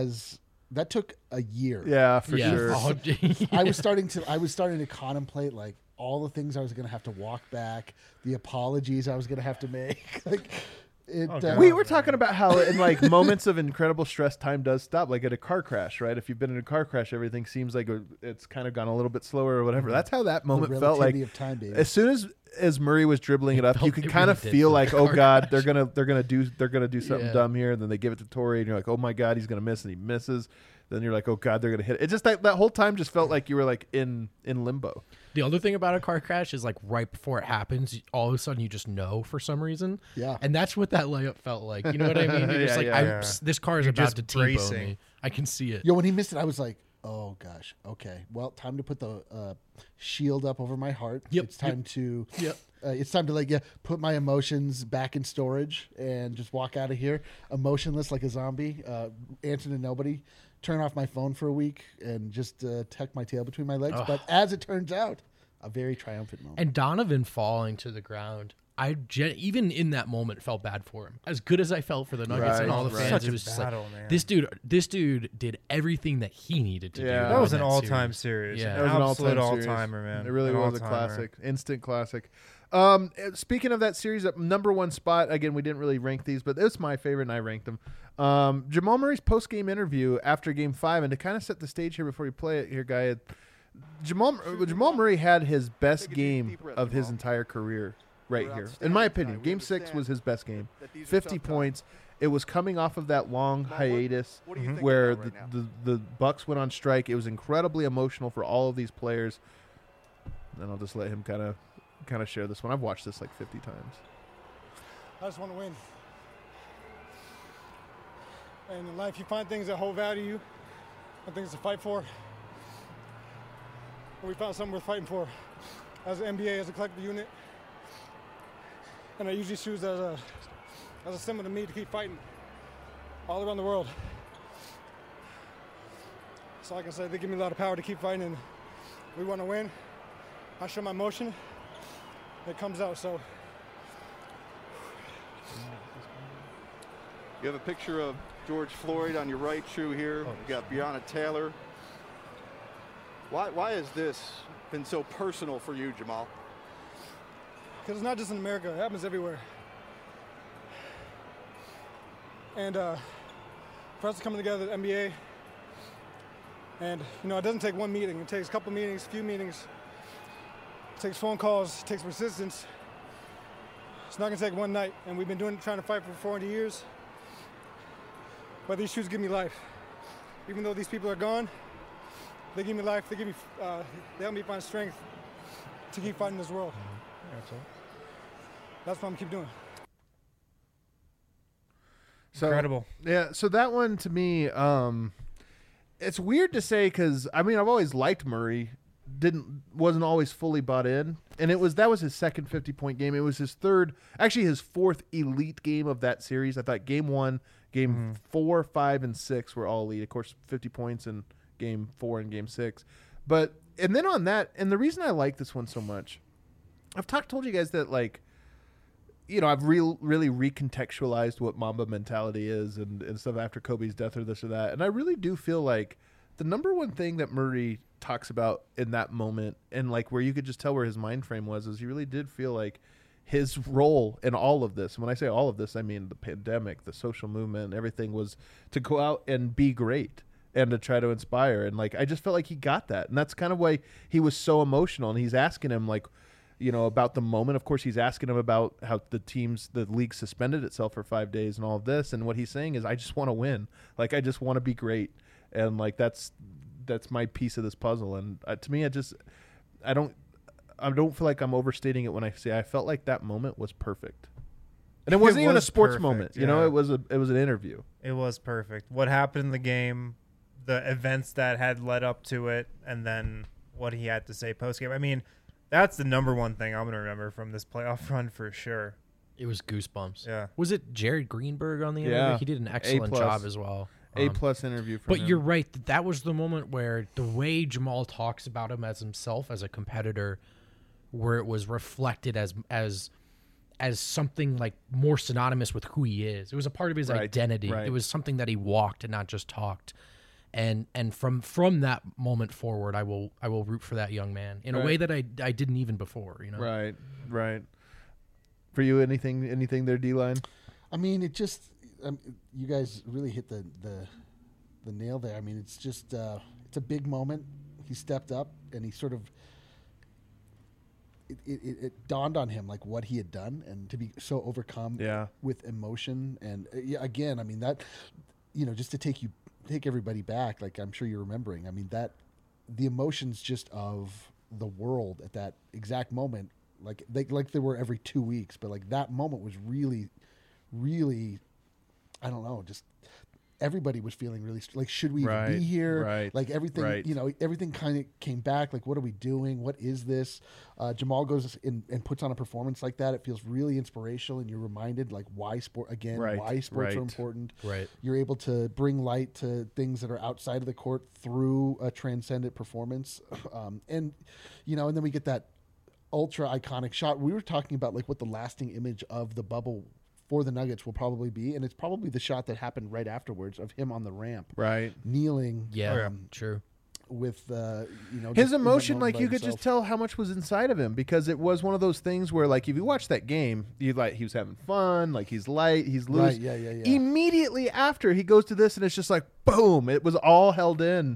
took a year. Yeah, for Yeah. sure. Oh, I was starting to contemplate like all the things I was going to have to walk back, the apologies I was going to have to make. Like it. We were talking about how in like moments of incredible stress, time does stop. Like at a car crash, right? If you've been in a car crash, everything seems like it's kind of gone a little bit slower or whatever. That's how that moment felt like. relativity of time, baby. As soon as Murray was dribbling it up, you can it kind really of did feel feel like, like a oh car god, crash. they're gonna do something Yeah. dumb here, and then they give it to Torrey, and you're like, oh my god, he's gonna miss, and he misses. Then you're like, oh god, they're gonna hit it. It just that whole time just felt like you were like in limbo. The other thing about a car crash is like right before it happens, all of a sudden you just know for some reason. Yeah. And that's what that layup felt like. You know what I mean? You're just like, yeah. this car is You're about just to T-bone bracing. me. I can see it. Yo, when he missed it, I was like, oh gosh, okay. Well, time to put the shield up over my heart. Yep, It's time to. Yep. It's time to put my emotions back in storage and just walk out of here emotionless like a zombie, answer to nobody, turn off my phone for a week, and just tuck my tail between my legs. Ugh. But as it turns out, a very triumphant moment. And Donovan falling to the ground, even in that moment felt bad for him. As good as I felt for the Nuggets and all the Right. fans, Such it a was just battle, like man. this dude did everything that he needed to do. Yeah. That was in an all-time series. series. Yeah. That was an Absolute all-time series. all-timer, man. It really An was a all-timer. classic, instant classic. Speaking of that series, at number one spot, again, we didn't really rank these, but it's my favorite, and I ranked them. Jamal Murray's post-game interview after Game 5, and to kind of set the stage here before you play it here, Guy, Jamal Murray had his best game of his entire career right here. In my opinion, Game 6 was his best game. 50 points. It was coming off of that long hiatus where the Bucks went on strike. It was incredibly emotional for all of these players. And I'll just let him kind of share this one. I've watched this like 50 times. I just want to win. And in life, you find things that hold value to you and things to fight for. And we found something worth fighting for as an NBA, as a collective unit. And I usually choose as a symbol to me to keep fighting all around the world. So like I said, they give me a lot of power to keep fighting, and we want to win. I show my emotion, it comes out, so. You have a picture of George Floyd on your right shoe here. You got Breonna Taylor. Why has this been so personal for you, Jamal? Because it's not just in America, it happens everywhere. And for us to come together at NBA, and it doesn't take one meeting, it takes a couple meetings, a few meetings, it takes phone calls, it takes persistence. It's not gonna take one night, and we've been trying to fight for 400 years. But these shoes give me life. Even though these people are gone, they give me life, they help me find strength to keep fighting this world. That's what I'm gonna keep doing. So, incredible. Yeah, so that one to me, it's weird to say because I've always liked Murray, wasn't always fully bought in, and that was his second 50-point game. It was his fourth elite game of that series. I thought Game 1, Game 4, 5, and 6 were all elite. Of course, 50 points in Game 4 and Game 6, and then on that, and the reason I like this one so much, I've told you guys that I've really recontextualized what Mamba mentality is and stuff after Kobe's death or this or that. And I really do feel like the number one thing that Murray talks about in that moment and where you could just tell where his mind frame was is he really did feel like his role in all of this. And when I say all of this, I mean the pandemic, the social movement, everything was to go out and be great and to try to inspire. And I just felt like he got that. And that's kind of why he was so emotional. And he's asking him about the moment. Of course, he's asking him about how the league suspended itself for 5 days and all of this. And what he's saying is, I just want to win. I just want to be great. And that's my piece of this puzzle. And to me, I don't feel like I'm overstating it when I say I felt like that moment was perfect. And it wasn't even a sports moment. Yeah. It was an interview. It was perfect. What happened in the game, the events that had led up to it, and then what he had to say post game. That's the number one thing I'm going to remember from this playoff run for sure. It was goosebumps. Yeah. Was it Jared Greenberg on the interview? Yeah. He did an excellent job as well. A+ interview from him. But you're right. That was the moment where the way Jamal talks about him as himself, as a competitor, where it was reflected as something more synonymous with who he is. It was a part of his identity. Right. It was something that he walked and not just talked. And from that moment forward, I will root for that young man in a way that I didn't even before. Right. For you, anything there, D-Line? It just you guys really hit the nail there. It's just it's a big moment. He stepped up and he sort of it dawned on him what he had done and to be so overcome with emotion and again that just to take everybody back, I'm sure you're remembering. That the emotions just of the world at that exact moment, they were every 2 weeks, but that moment was really, really, I don't know, just everybody was feeling really should we even be here? Right. Everything, everything kind of came back. What are we doing? What is this? Jamal goes in and puts on a performance like that. It feels really inspirational, and you're reminded why sports are important. Right. You're able to bring light to things that are outside of the court through a transcendent performance, and then we get that ultra iconic shot. We were talking about what the lasting image of the bubble for the Nuggets will probably be, and it's probably the shot that happened right afterwards of him on the ramp, kneeling, true, with his emotion. You could just tell how much was inside of him, because it was one of those things where if you watch that game, he was having fun, he's light, he's loose. Yeah. Immediately after he goes to this, and it's just boom, it was all held in.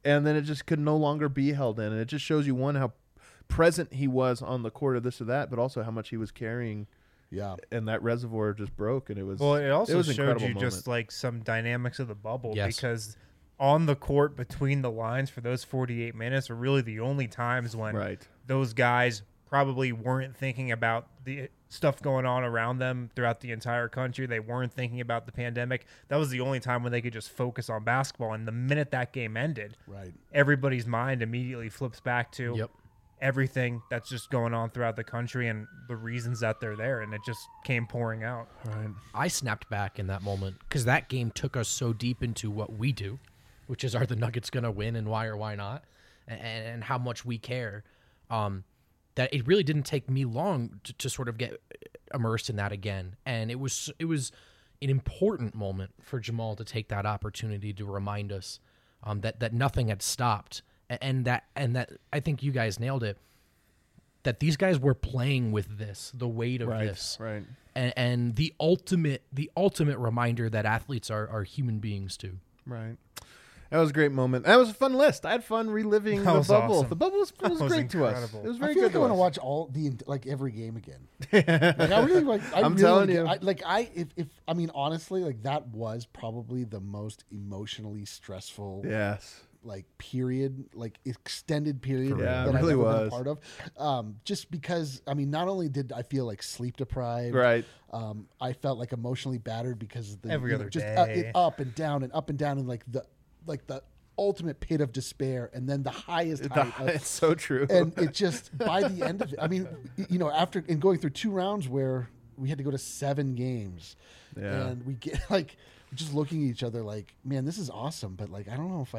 and then it just could no longer be held in. And it just shows you, one, how present he was on the court, or this or that, but also how much he was carrying. Yeah, and that reservoir just broke, and it was. Well, it also was an showed you incredible just moment. like some dynamics of the bubble, Yes. because on the court between the lines for those 48 minutes are really the only times when those guys probably weren't thinking about the stuff going on around them throughout the entire country. They weren't thinking about the pandemic. That was the only time when they could just focus on basketball. And the minute that game ended, everybody's mind immediately flips back to everything that's just going on throughout the country and the reasons that they're there, and it just came pouring out. I snapped back in that moment because that game took us so deep into what we do, which is, are the Nuggets going to win and why or why not, and how much we care, that it really didn't take me long to sort of get immersed in that again. And it was an important moment for Jamal to take that opportunity to remind us that nothing had stopped. And that I think you guys nailed it, that these guys were playing with this, the weight of this. Right. And the ultimate reminder that athletes are human beings too. Right. That was a great moment. That was a fun list. I had fun reliving the was bubble. awesome. The bubble was That was great to us. incredible. It was very I feel good like I to want to us. watch every game again. Like, I really like. I'm telling you. If I mean honestly, like that was probably the most emotionally stressful. Yes. Like period, like extended period Yeah, that it really I've ever been was. a part of. Just because, I mean, not only did I feel like sleep deprived, Right. I felt like emotionally battered because of the Every other just day. up and down and like the ultimate pit of despair, and then the highest height of, It's so true. and it just by the end of it, I mean, after going through 2 rounds where we had to go to 7 games, and we get like just looking at each other like, man, this is awesome, but like I don't know if I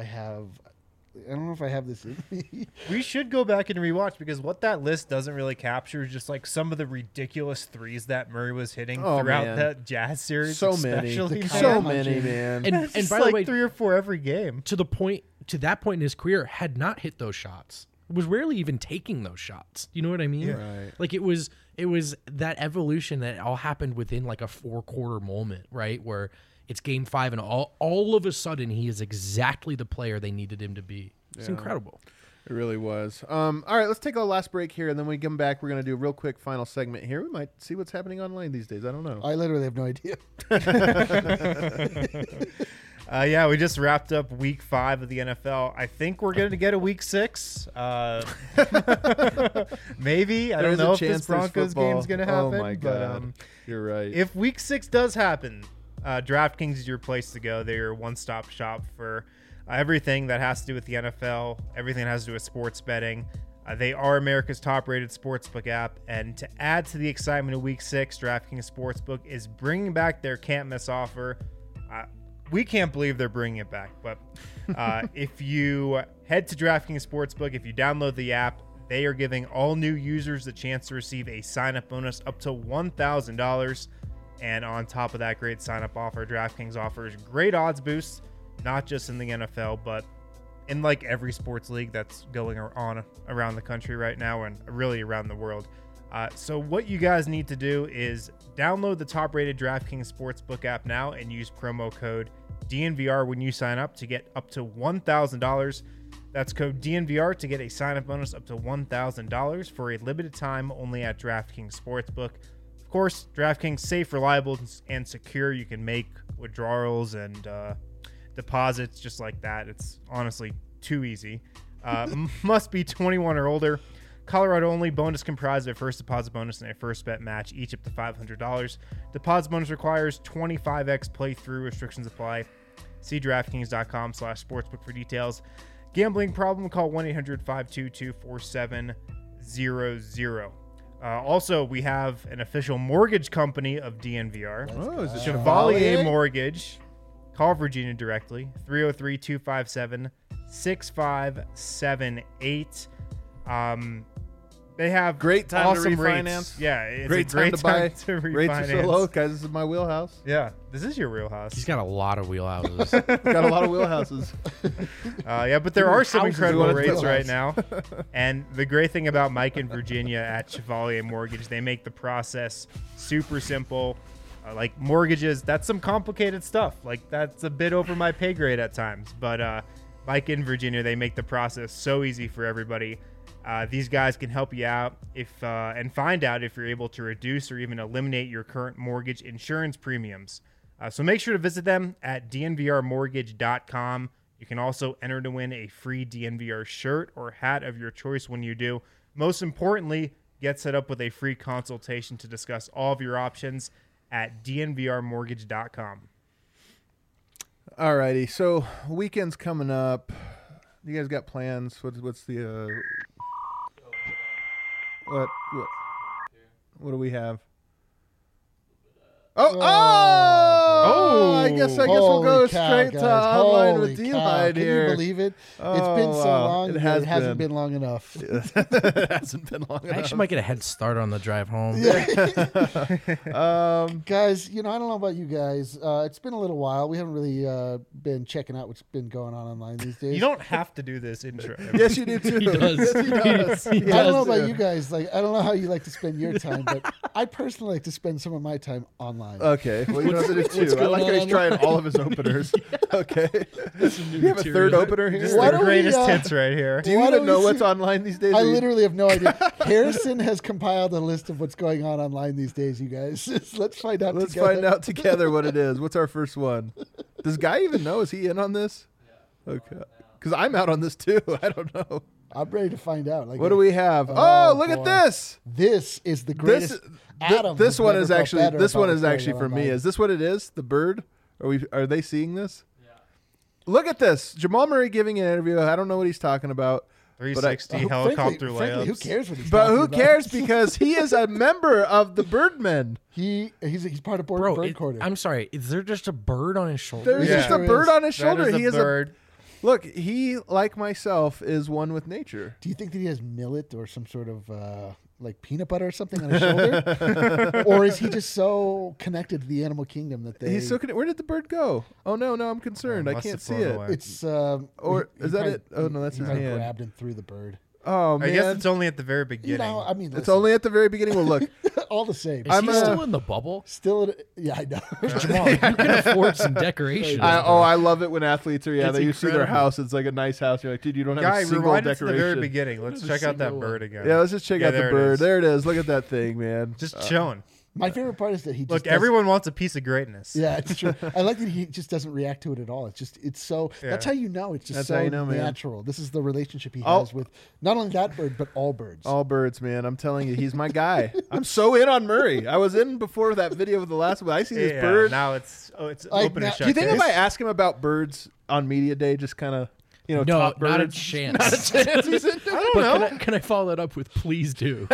have this in me. We should go back and rewatch, because what that list doesn't really capture is just like some of the ridiculous threes that Murray was hitting throughout man. that Jazz series. So many. especially, man. So many, man. And It's by like the way, 3 or 4 every game. to that point in his career, had not hit those shots. Was rarely even taking those shots. You know what I mean? Right. Like it was that evolution that all happened within like a 4-quarter moment, right? Where it's game 5 and all of a sudden he is exactly the player they needed him to be. It's incredible. It really was. All right, let's take a last break here, and then when we come back, we're going to do a real quick final segment here. We might see what's happening online these days. I don't know. I literally have no idea. Yeah, we just wrapped up week 5 of the NFL. I think we're going to get a week 6. Maybe. I don't know if this Broncos game is going to happen. Oh, my God. But, you're right. if week 6 does happen, DraftKings is your place to go. They're your one-stop shop for everything that has to do with the NFL, everything that has to do with sports betting. They are America's top-rated sportsbook app, and to add to the excitement of Week 6, DraftKings Sportsbook is bringing back their can't-miss offer. We can't believe they're bringing it back, but if you head to DraftKings Sportsbook, if you download the app, they are giving all new users the chance to receive a sign-up bonus up to $1,000. And on top of that great sign-up offer, DraftKings offers great odds boosts, not just in the NFL, but in like every sports league that's going on around the country right now and really around the world. So what you guys need to do is download the top-rated DraftKings Sportsbook app now and use promo code DNVR when you sign up to get up to $1,000. That's code DNVR to get a sign-up bonus up to $1,000 for a limited time only at DraftKings Sportsbook. Of course, DraftKings safe, reliable, and secure. You can make withdrawals and deposits just like that. It's honestly too easy. Must be 21 or older. Colorado only. Bonus comprised of a first deposit bonus and a first bet match, each up to $500. Deposit bonus requires 25x playthrough. Restrictions apply. See DraftKings.com/sportsbook for details. Gambling problem? Call 1-800-522-4700. Also, we have an official mortgage company of DNVR. Oh, is it Chevalier Mortgage. Call Virginia directly. 303-257-6578. They have great time awesome to refinance. Rates. Yeah, it's great a great time to buy. to refinance. Rates are so low, guys. This is my wheelhouse. Yeah, this is your wheelhouse. He's got a lot of wheelhouses. Got a lot of wheelhouses. Yeah, but there are some incredible rates wheelhouse. right now. And the great thing about Mike and Virginia at Chevalier Mortgage, they make the process super simple. Like mortgages, that's some complicated stuff. Like that's a bit over my pay grade at times. But like in Virginia, they make the process so easy for everybody. These guys can help you out and find out if you're able to reduce or even eliminate your current mortgage insurance premiums. So make sure to visit them at dnvrmortgage.com. You can also enter to win a free DNVR shirt or hat of your choice when you do. Most importantly, get set up with a free consultation to discuss all of your options at dnvrmortgage.com. All righty. So weekend's coming up. You guys got plans? What's the what do we have? Oh! I guess we'll go straight to online with D-Line here. Can you believe it? It's been so long. It hasn't been long enough. It hasn't been long enough. I actually might get a head start on the drive home. Guys, I don't know about you guys. It's been a little while. We haven't really been checking out what's been going on online these days. You don't have to do this intro. Yes, you do too. He does. Yes, he does. I don't know about you guys. I don't know how you like to spend your time, but I personally like to spend some of my time online. Okay, well, you know what to do too. I like how he's trying all of his openers. Okay. You have a third opener here? Just the greatest hits right here. Do you even know what's online these days? I literally have no idea. Harrison has compiled a list of what's going on online these days, you guys. Let's find out Let's together. find out together what it is. What's our first one? Does Guy even know? Is he in on this? Yeah. Okay. Because I'm out on this too. I don't know. I'm ready to find out. What do we have? Oh, look at this. This is the greatest. Adam, this one is actually for for me. Is this what it is? The bird? Are they seeing this? Yeah. Look at this. Jamal Murray giving an interview. I don't know what he's talking about. 360 helicopter layups. Frankly, who cares what he's But talking who about? cares because he is a member of the Birdmen. He's part of bird quarter. I'm sorry. Is there just a bird on his shoulder? There's just a bird on his shoulder. He is a bird. Look, he, like myself, is one with nature. Do you think that he has millet or some sort of like peanut butter or something on his shoulder? Or is he just so connected to the animal kingdom that they... He's so connected. Where did the bird go? Oh, no, I'm concerned. I can't see it. It's... or is that it? Oh, no, that's his hand. Grabbed and threw the bird. Oh, man. I guess it's only at the very beginning. It's only at the very beginning. Well, look. All the same. Is he still in the bubble? Yeah, I know. Jamal, you can afford some decorations. I love it when athletes are, It's you see their incredible. house. It's like a nice house. You're like, dude, you don't have a single rewind it decoration. to the very beginning. Let's check out that bird again. Yeah, let's just check out the there it bird. is. There it is. Look at that thing, man. Just chilling. My favorite part is that he just Look, doesn't- everyone wants a piece of greatness. Yeah, it's true. I like that he just doesn't react to it at all. It's so. Yeah. That's how you know. It's just That's so how you know, man. natural. This is the relationship he has with not only that bird but all birds. All birds, man. I'm telling you, he's my guy. I'm so in on Murray. I was in before that video of the last one. I see this bird. Now it's Like, open and shut. Do you think if case. I ask him about birds on media day, just kind of, No, top not a birds? chance. Not a chance. He's into it. But can I follow that up with please do?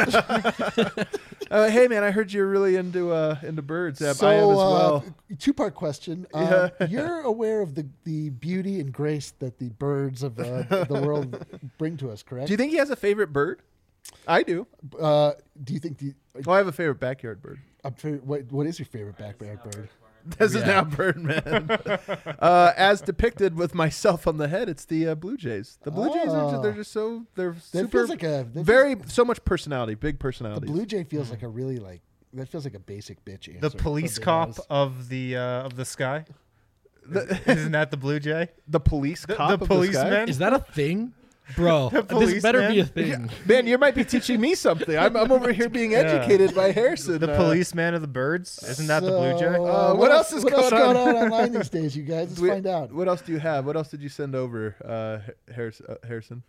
Hey, man, I heard you're really into birds. So, I am as well. two-part question. You're aware of the beauty and grace that the birds of the world bring to us, correct? Do you think he has a favorite bird? I do. Do you think I have a favorite backyard bird. What is your favorite backyard bird? This is now Birdman. As depicted with myself on the head, it's the Blue Jays. The Blue Jays they're just so That super feels like a so much personality, big personality. The Blue Jay feels like a really that feels like a basic bitch answer. The police for cop bananas. of the sky? Isn't that the Blue Jay? The police cop the of policeman? the sky? Is that a thing? Bro, this better be a thing. Man, you might be teaching me something. I'm over here being educated by Harrison. The policeman of the birds? Isn't that the Blue Jay? What else is going on online these days, you guys? Let's find out. What else do you have? What else did you send over, Harrison?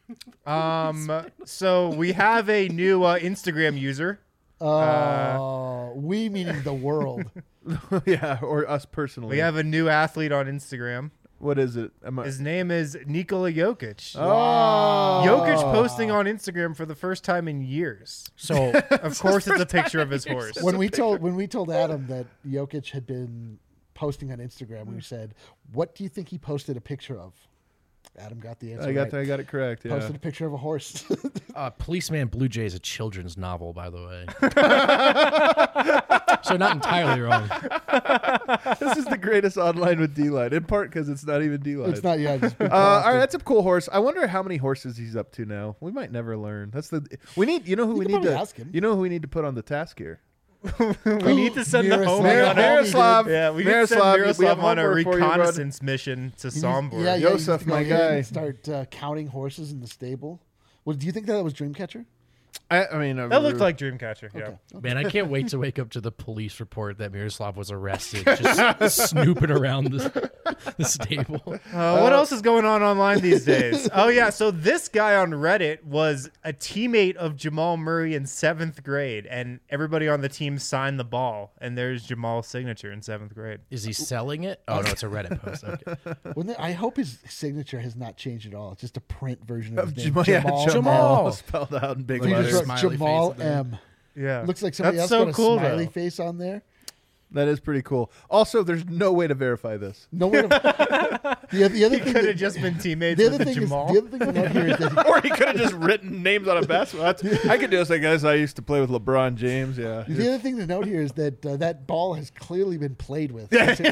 So we have a new Instagram user. We meaning the world. Yeah, or us personally. We have a new athlete on Instagram. What is it? His name is Nikola Jokic. Oh. Jokic posting on Instagram for the first time in years. So of course it's a picture of his horse. When we told Adam that Jokic had been posting on Instagram, we said, "What do you think he posted a picture of?" Adam got the answer. I got it correct. Yeah. Posted a picture of a horse. Policeman Blue Jay is a children's novel, by the way. So not entirely wrong. This is the greatest online with D-Line, in part because it's not even D-Line. It's not. Yeah. Just all right, that's a cool horse. I wonder how many horses he's up to now. We might never learn. We need. You know who we need to ask him. You know who we need to put on the task here. We need to send the homie on Miroslav. Yeah, we need to send Miroslav on a reconnaissance mission to Sombor. Yeah, Yosef, my guy. Start counting horses in the stable. Well, do you think that was Dreamcatcher? I mean, that looked like Dreamcatcher. Yeah. Okay. Man, I can't wait to wake up to the police report that Miroslav was arrested, just snooping around the stable. What else is going on online these days? Oh, yeah. So this guy on Reddit was a teammate of Jamal Murray in 7th grade, and everybody on the team signed the ball, and there's Jamal's signature in 7th grade. Is he selling it? Oh, no, it's a Reddit post. Okay. I hope his signature has not changed at all. It's just a print version of his name. Jamal. Jamal. Spelled out in big He just letters. wrote Smiley Jamal face at the M. Yeah. Looks like somebody That's else so put a cool, smiley though. face on there. That is pretty cool. Also, there's no way to verify this. No way to. The other He thing could that- have just been teammates the other with thing Jamal. Is, the other thing to note here is that Or he could have just written names on a basketball. I could do this. I guess I used to play with LeBron James. Yeah. the other thing to note here is that that ball has clearly been played with.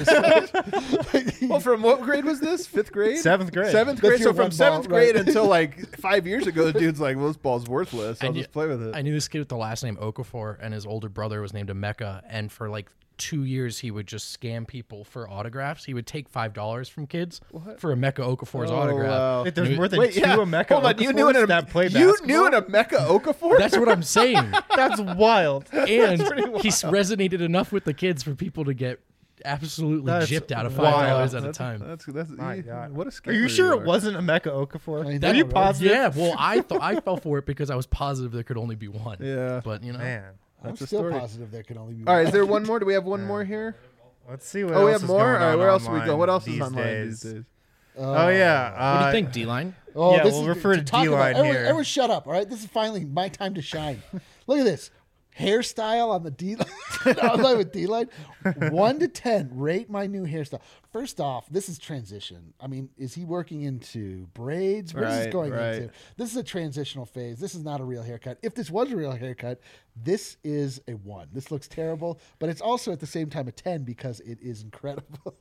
Well, from what grade was this? 5th grade? 7th grade. 7th grade. your So from one ball, 7th grade right. until like 5 years ago, the dude's like, well, this ball's worthless. I'll just play with it. I knew this kid with the last name Okafor, and his older brother was named Emeka, and for like 2 years he would just scam people for autographs. He would take $5 from kids for Emeka Okafor's autograph. Wow. Wait, there's And it- more than Wait, two yeah. Emeka Hold on, you knew Okafors an that play you basketball? knew an Emeka Okafor? That's what I'm saying. That's wild. And he resonated enough with the kids for people to get absolutely That's gypped out of wild. $5 at a time. That's My God. what a Are you scammer sure it are. wasn't Emeka Okafor? I know, Are you right? positive? Yeah, well, I fell for it because I was positive there could only be one. Yeah. But you know, Man. I'm That's a still story. positive there can only be All right, one. is there one more? Do we have one more here? Let's see what Oh, we else have is more? going All right, on where else are we online going? What else is these online days. these days? Oh, yeah. what do you think, D-line? Oh, Yeah, this we'll is refer to talk about- D-line everyone, here. Everyone shut up, all right? This is finally my time to shine. Look at this. Hairstyle on the D-line. Online with D-line. 1 to 10, rate my new hairstyle. First off, this is transition. I mean, is he working into braids? What is this Right, going right. into? This is a transitional phase. This is not a real haircut. If this was a real haircut, this is a 1. This looks terrible, but it's also at the same time a 10 because it is incredible.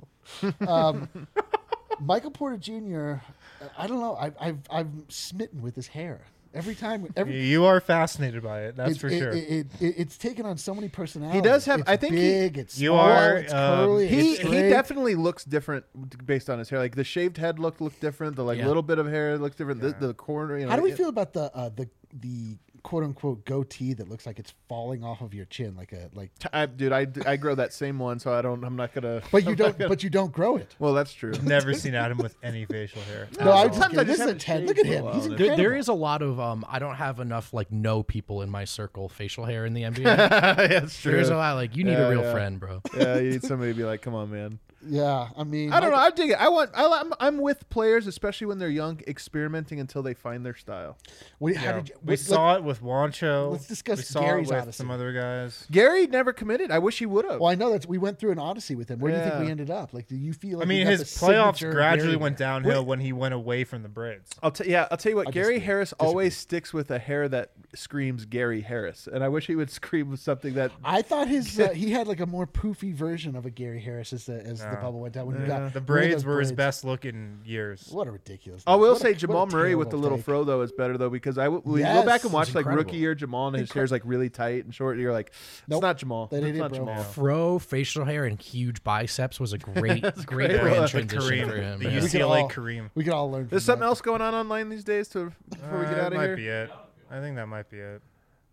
Michael Porter Jr., I don't know. I'm smitten with his hair. Every time, You are fascinated by it, that's for sure. It's taken on so many personalities. He does have. It's I think big. It's You small, are, It's curly. he it's he straight. definitely looks different based on his hair. Like the shaved head looked different. The Yeah. little bit of hair looks different. The corner. You know, How do we feel about the quote unquote goatee that looks like it's falling off of your chin, Dude, I grow that same one, so I'm not gonna. But you don't. But you don't grow it. Well, that's true. Never seen Adam with any facial hair. No, I'm Sometimes just I kidding. This just is a haven't 10. shaved Look at for a him. while. He's There- incredible. There is a lot of I don't have enough like no people in my circle facial hair in the NBA. That's true. There's a lot like you need a real Yeah. friend, bro. Yeah, you need somebody to be like, come on, man. Yeah, I mean, I don't know. I dig it. I'm with players, especially when they're young, experimenting until they find their style. How did you, We saw it with Wancho. Let's discuss we saw Gary's it with Odyssey. some other guys. Gary never committed. I wish he would have. Well, I know that we went through an odyssey with him. Where do you think Yeah. we ended up? Like, do you feel like I mean, we got his the playoffs signature gradually Gary went there? downhill when he went away from the braids. I'll tell you what. I Gary disagree. Harris always sticks with a hair that screams Gary Harris, and I wish he would scream with something that. I thought his he had like a more poofy version of a Gary Harris as the bubble went down. When he got The rid of braids those were his braids. best looking years. What a ridiculous! I will what a- say what a Jamal Murray with the terrible little take. fro though is better though because we Yes, go back and it's watch like incredible. rookie year Jamal and his hair's like really tight and short. And you're like, it's Nope. not Jamal. That ain't It's it, not bro. Jamal. Fro, facial hair, and huge biceps was a great great. brand The transition Kareem, for him. the yeah. We could UCLA all- Kareem. We could all learn. There's from something that. else going on online these days before we get out That of might here. be it. I think that might be it.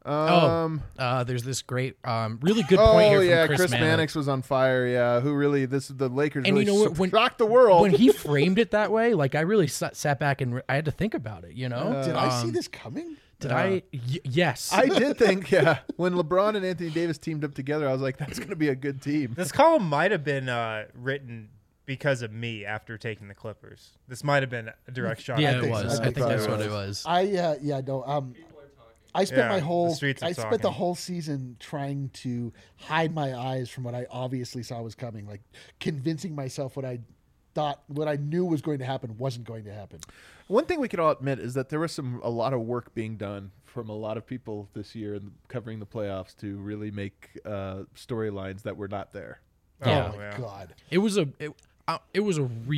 There's this great, really good point here from yeah, Chris Mannix. Mannix was on fire. Yeah, who really? The Lakers And really you know what, shocked the world When he framed it that way, like I really sat back and I had to think about it. You know, Did I see this coming? Did I? Yes, I did think, yeah. When LeBron and Anthony Davis teamed up together, I was like, that's going to be a good team. This column might have been written because of me after taking the Clippers. This might have been a direct shot. Yeah, at it me. was. I think that's what it was. I spent my Yeah, whole the streets are I spent the talking. whole season trying to hide my eyes from what I obviously saw was coming, like convincing myself what I knew was going to happen wasn't going to happen. One thing we could all admit is that there was a lot of work being done from a lot of people this year in covering the playoffs to really make storylines that were not there. Yeah. Oh my god! It was a really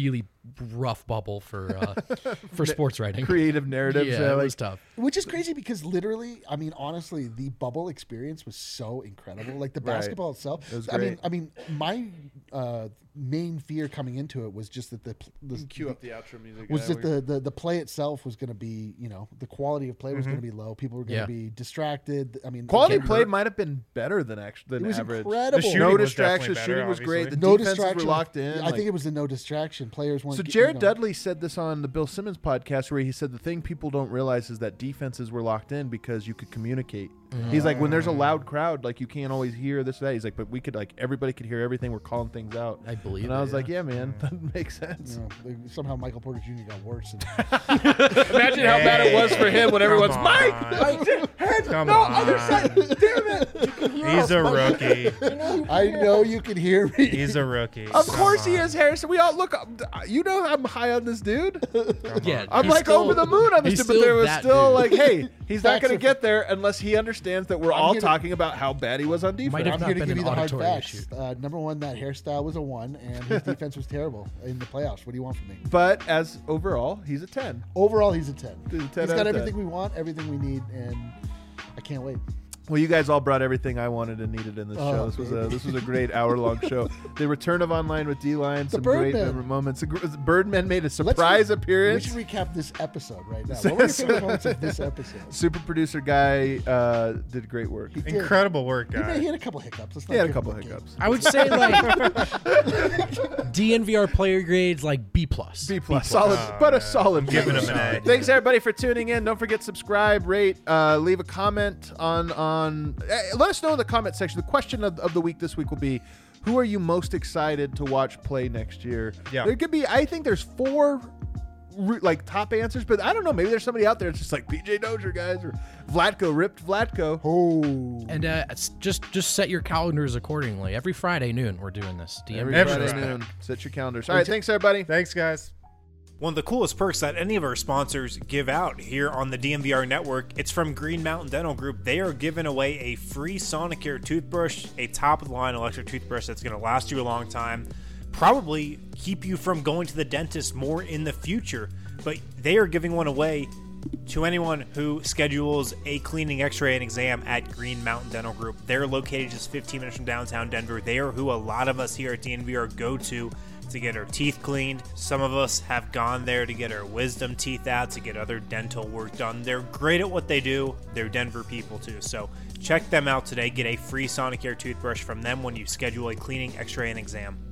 rough bubble for sports writing. Creative narratives. Yeah, it was tough. Which is crazy because literally, I mean, honestly, the bubble experience was so incredible. Like the basketball itself. It was I great. mean, my main fear coming into it was just that the Cue up the outro music. was that the play itself was going to be, the quality of play was going to be low. People were going to be distracted. I mean, quality again, play might have been better than it average. was incredible. No distractions. Shooting was great. The defenses were locked in. I think it was a no distraction. Players weren't. So Jared Dudley said this on the Bill Simmons podcast, where he said the thing people don't realize is that defenses were locked in because you could communicate. He's like, when there's a loud crowd, like you can't always hear this or that. He's like, but we could, like, everybody could hear everything. We're calling things out. I believe. And I was like, yeah, man, that makes sense. Somehow Michael Porter Jr. got worse. Imagine how bad it was for him when everyone's Mike. Other side. Damn it. He's a rookie. I know you can hear me. He's a rookie. Of course he is, Harrison. We all look. You know I'm high on this dude. Yeah, I'm like still, over the moon on this he's dude, but there was still dude. like, hey, he's not Facts going are- to get there unless he understands that we're all talking about how bad he was on defense. Might have I'm not here to been give you an the hard auditory facts. issue. Number one, that hairstyle was a 1, and his defense was terrible in the playoffs. What do you want from me? But as overall, he's a 10. Overall, he's a 10. He's a 10 He's out got of 10. everything we want, everything we need, and I can't wait. Well, you guys all brought everything I wanted and needed in this show. This was a great hour-long show. The return of Online with D-Line, some great Birdmen. moments. Birdmen made a surprise appearance. We should recap this episode right now. What were your favorite moments of this episode? Super producer guy did great work. He did. Incredible work, guy. He had a couple hiccups. Let's not He had a give couple him hiccups. I would say like DNVR player grades like B+. B+, solid, but a solid. giving him an A. Thanks everybody for tuning in. Don't forget subscribe, rate, leave a comment on. Let us know in the comment section. The question of the week this week will be, who are you most excited to watch play next year? Yeah. There could be. I think there's 4 like top answers, but I don't know. Maybe there's somebody out there that's just like PJ Dozier, guys, or Vlatko, ripped Vlatko. Oh, And just set your calendars accordingly. Every Friday noon, we're doing this. Every DNVR. Friday noon. Set your calendars. All right, thanks everybody. Thanks, guys. One of the coolest perks that any of our sponsors give out here on the DNVR network, it's from Green Mountain Dental Group. They are giving away a free Sonicare toothbrush, a top-of-the-line electric toothbrush that's going to last you a long time, probably keep you from going to the dentist more in the future. But they are giving one away to anyone who schedules a cleaning, x-ray, and exam at Green Mountain Dental Group. They're located just 15 minutes from downtown Denver. They are who a lot of us here at DNVR go to get our teeth cleaned. Some of us have gone there to get our wisdom teeth out, to get other dental work done. They're great at what they do. They're Denver people too. So check them out today. Get a free Sonicare toothbrush from them when you schedule a cleaning, x-ray, and exam.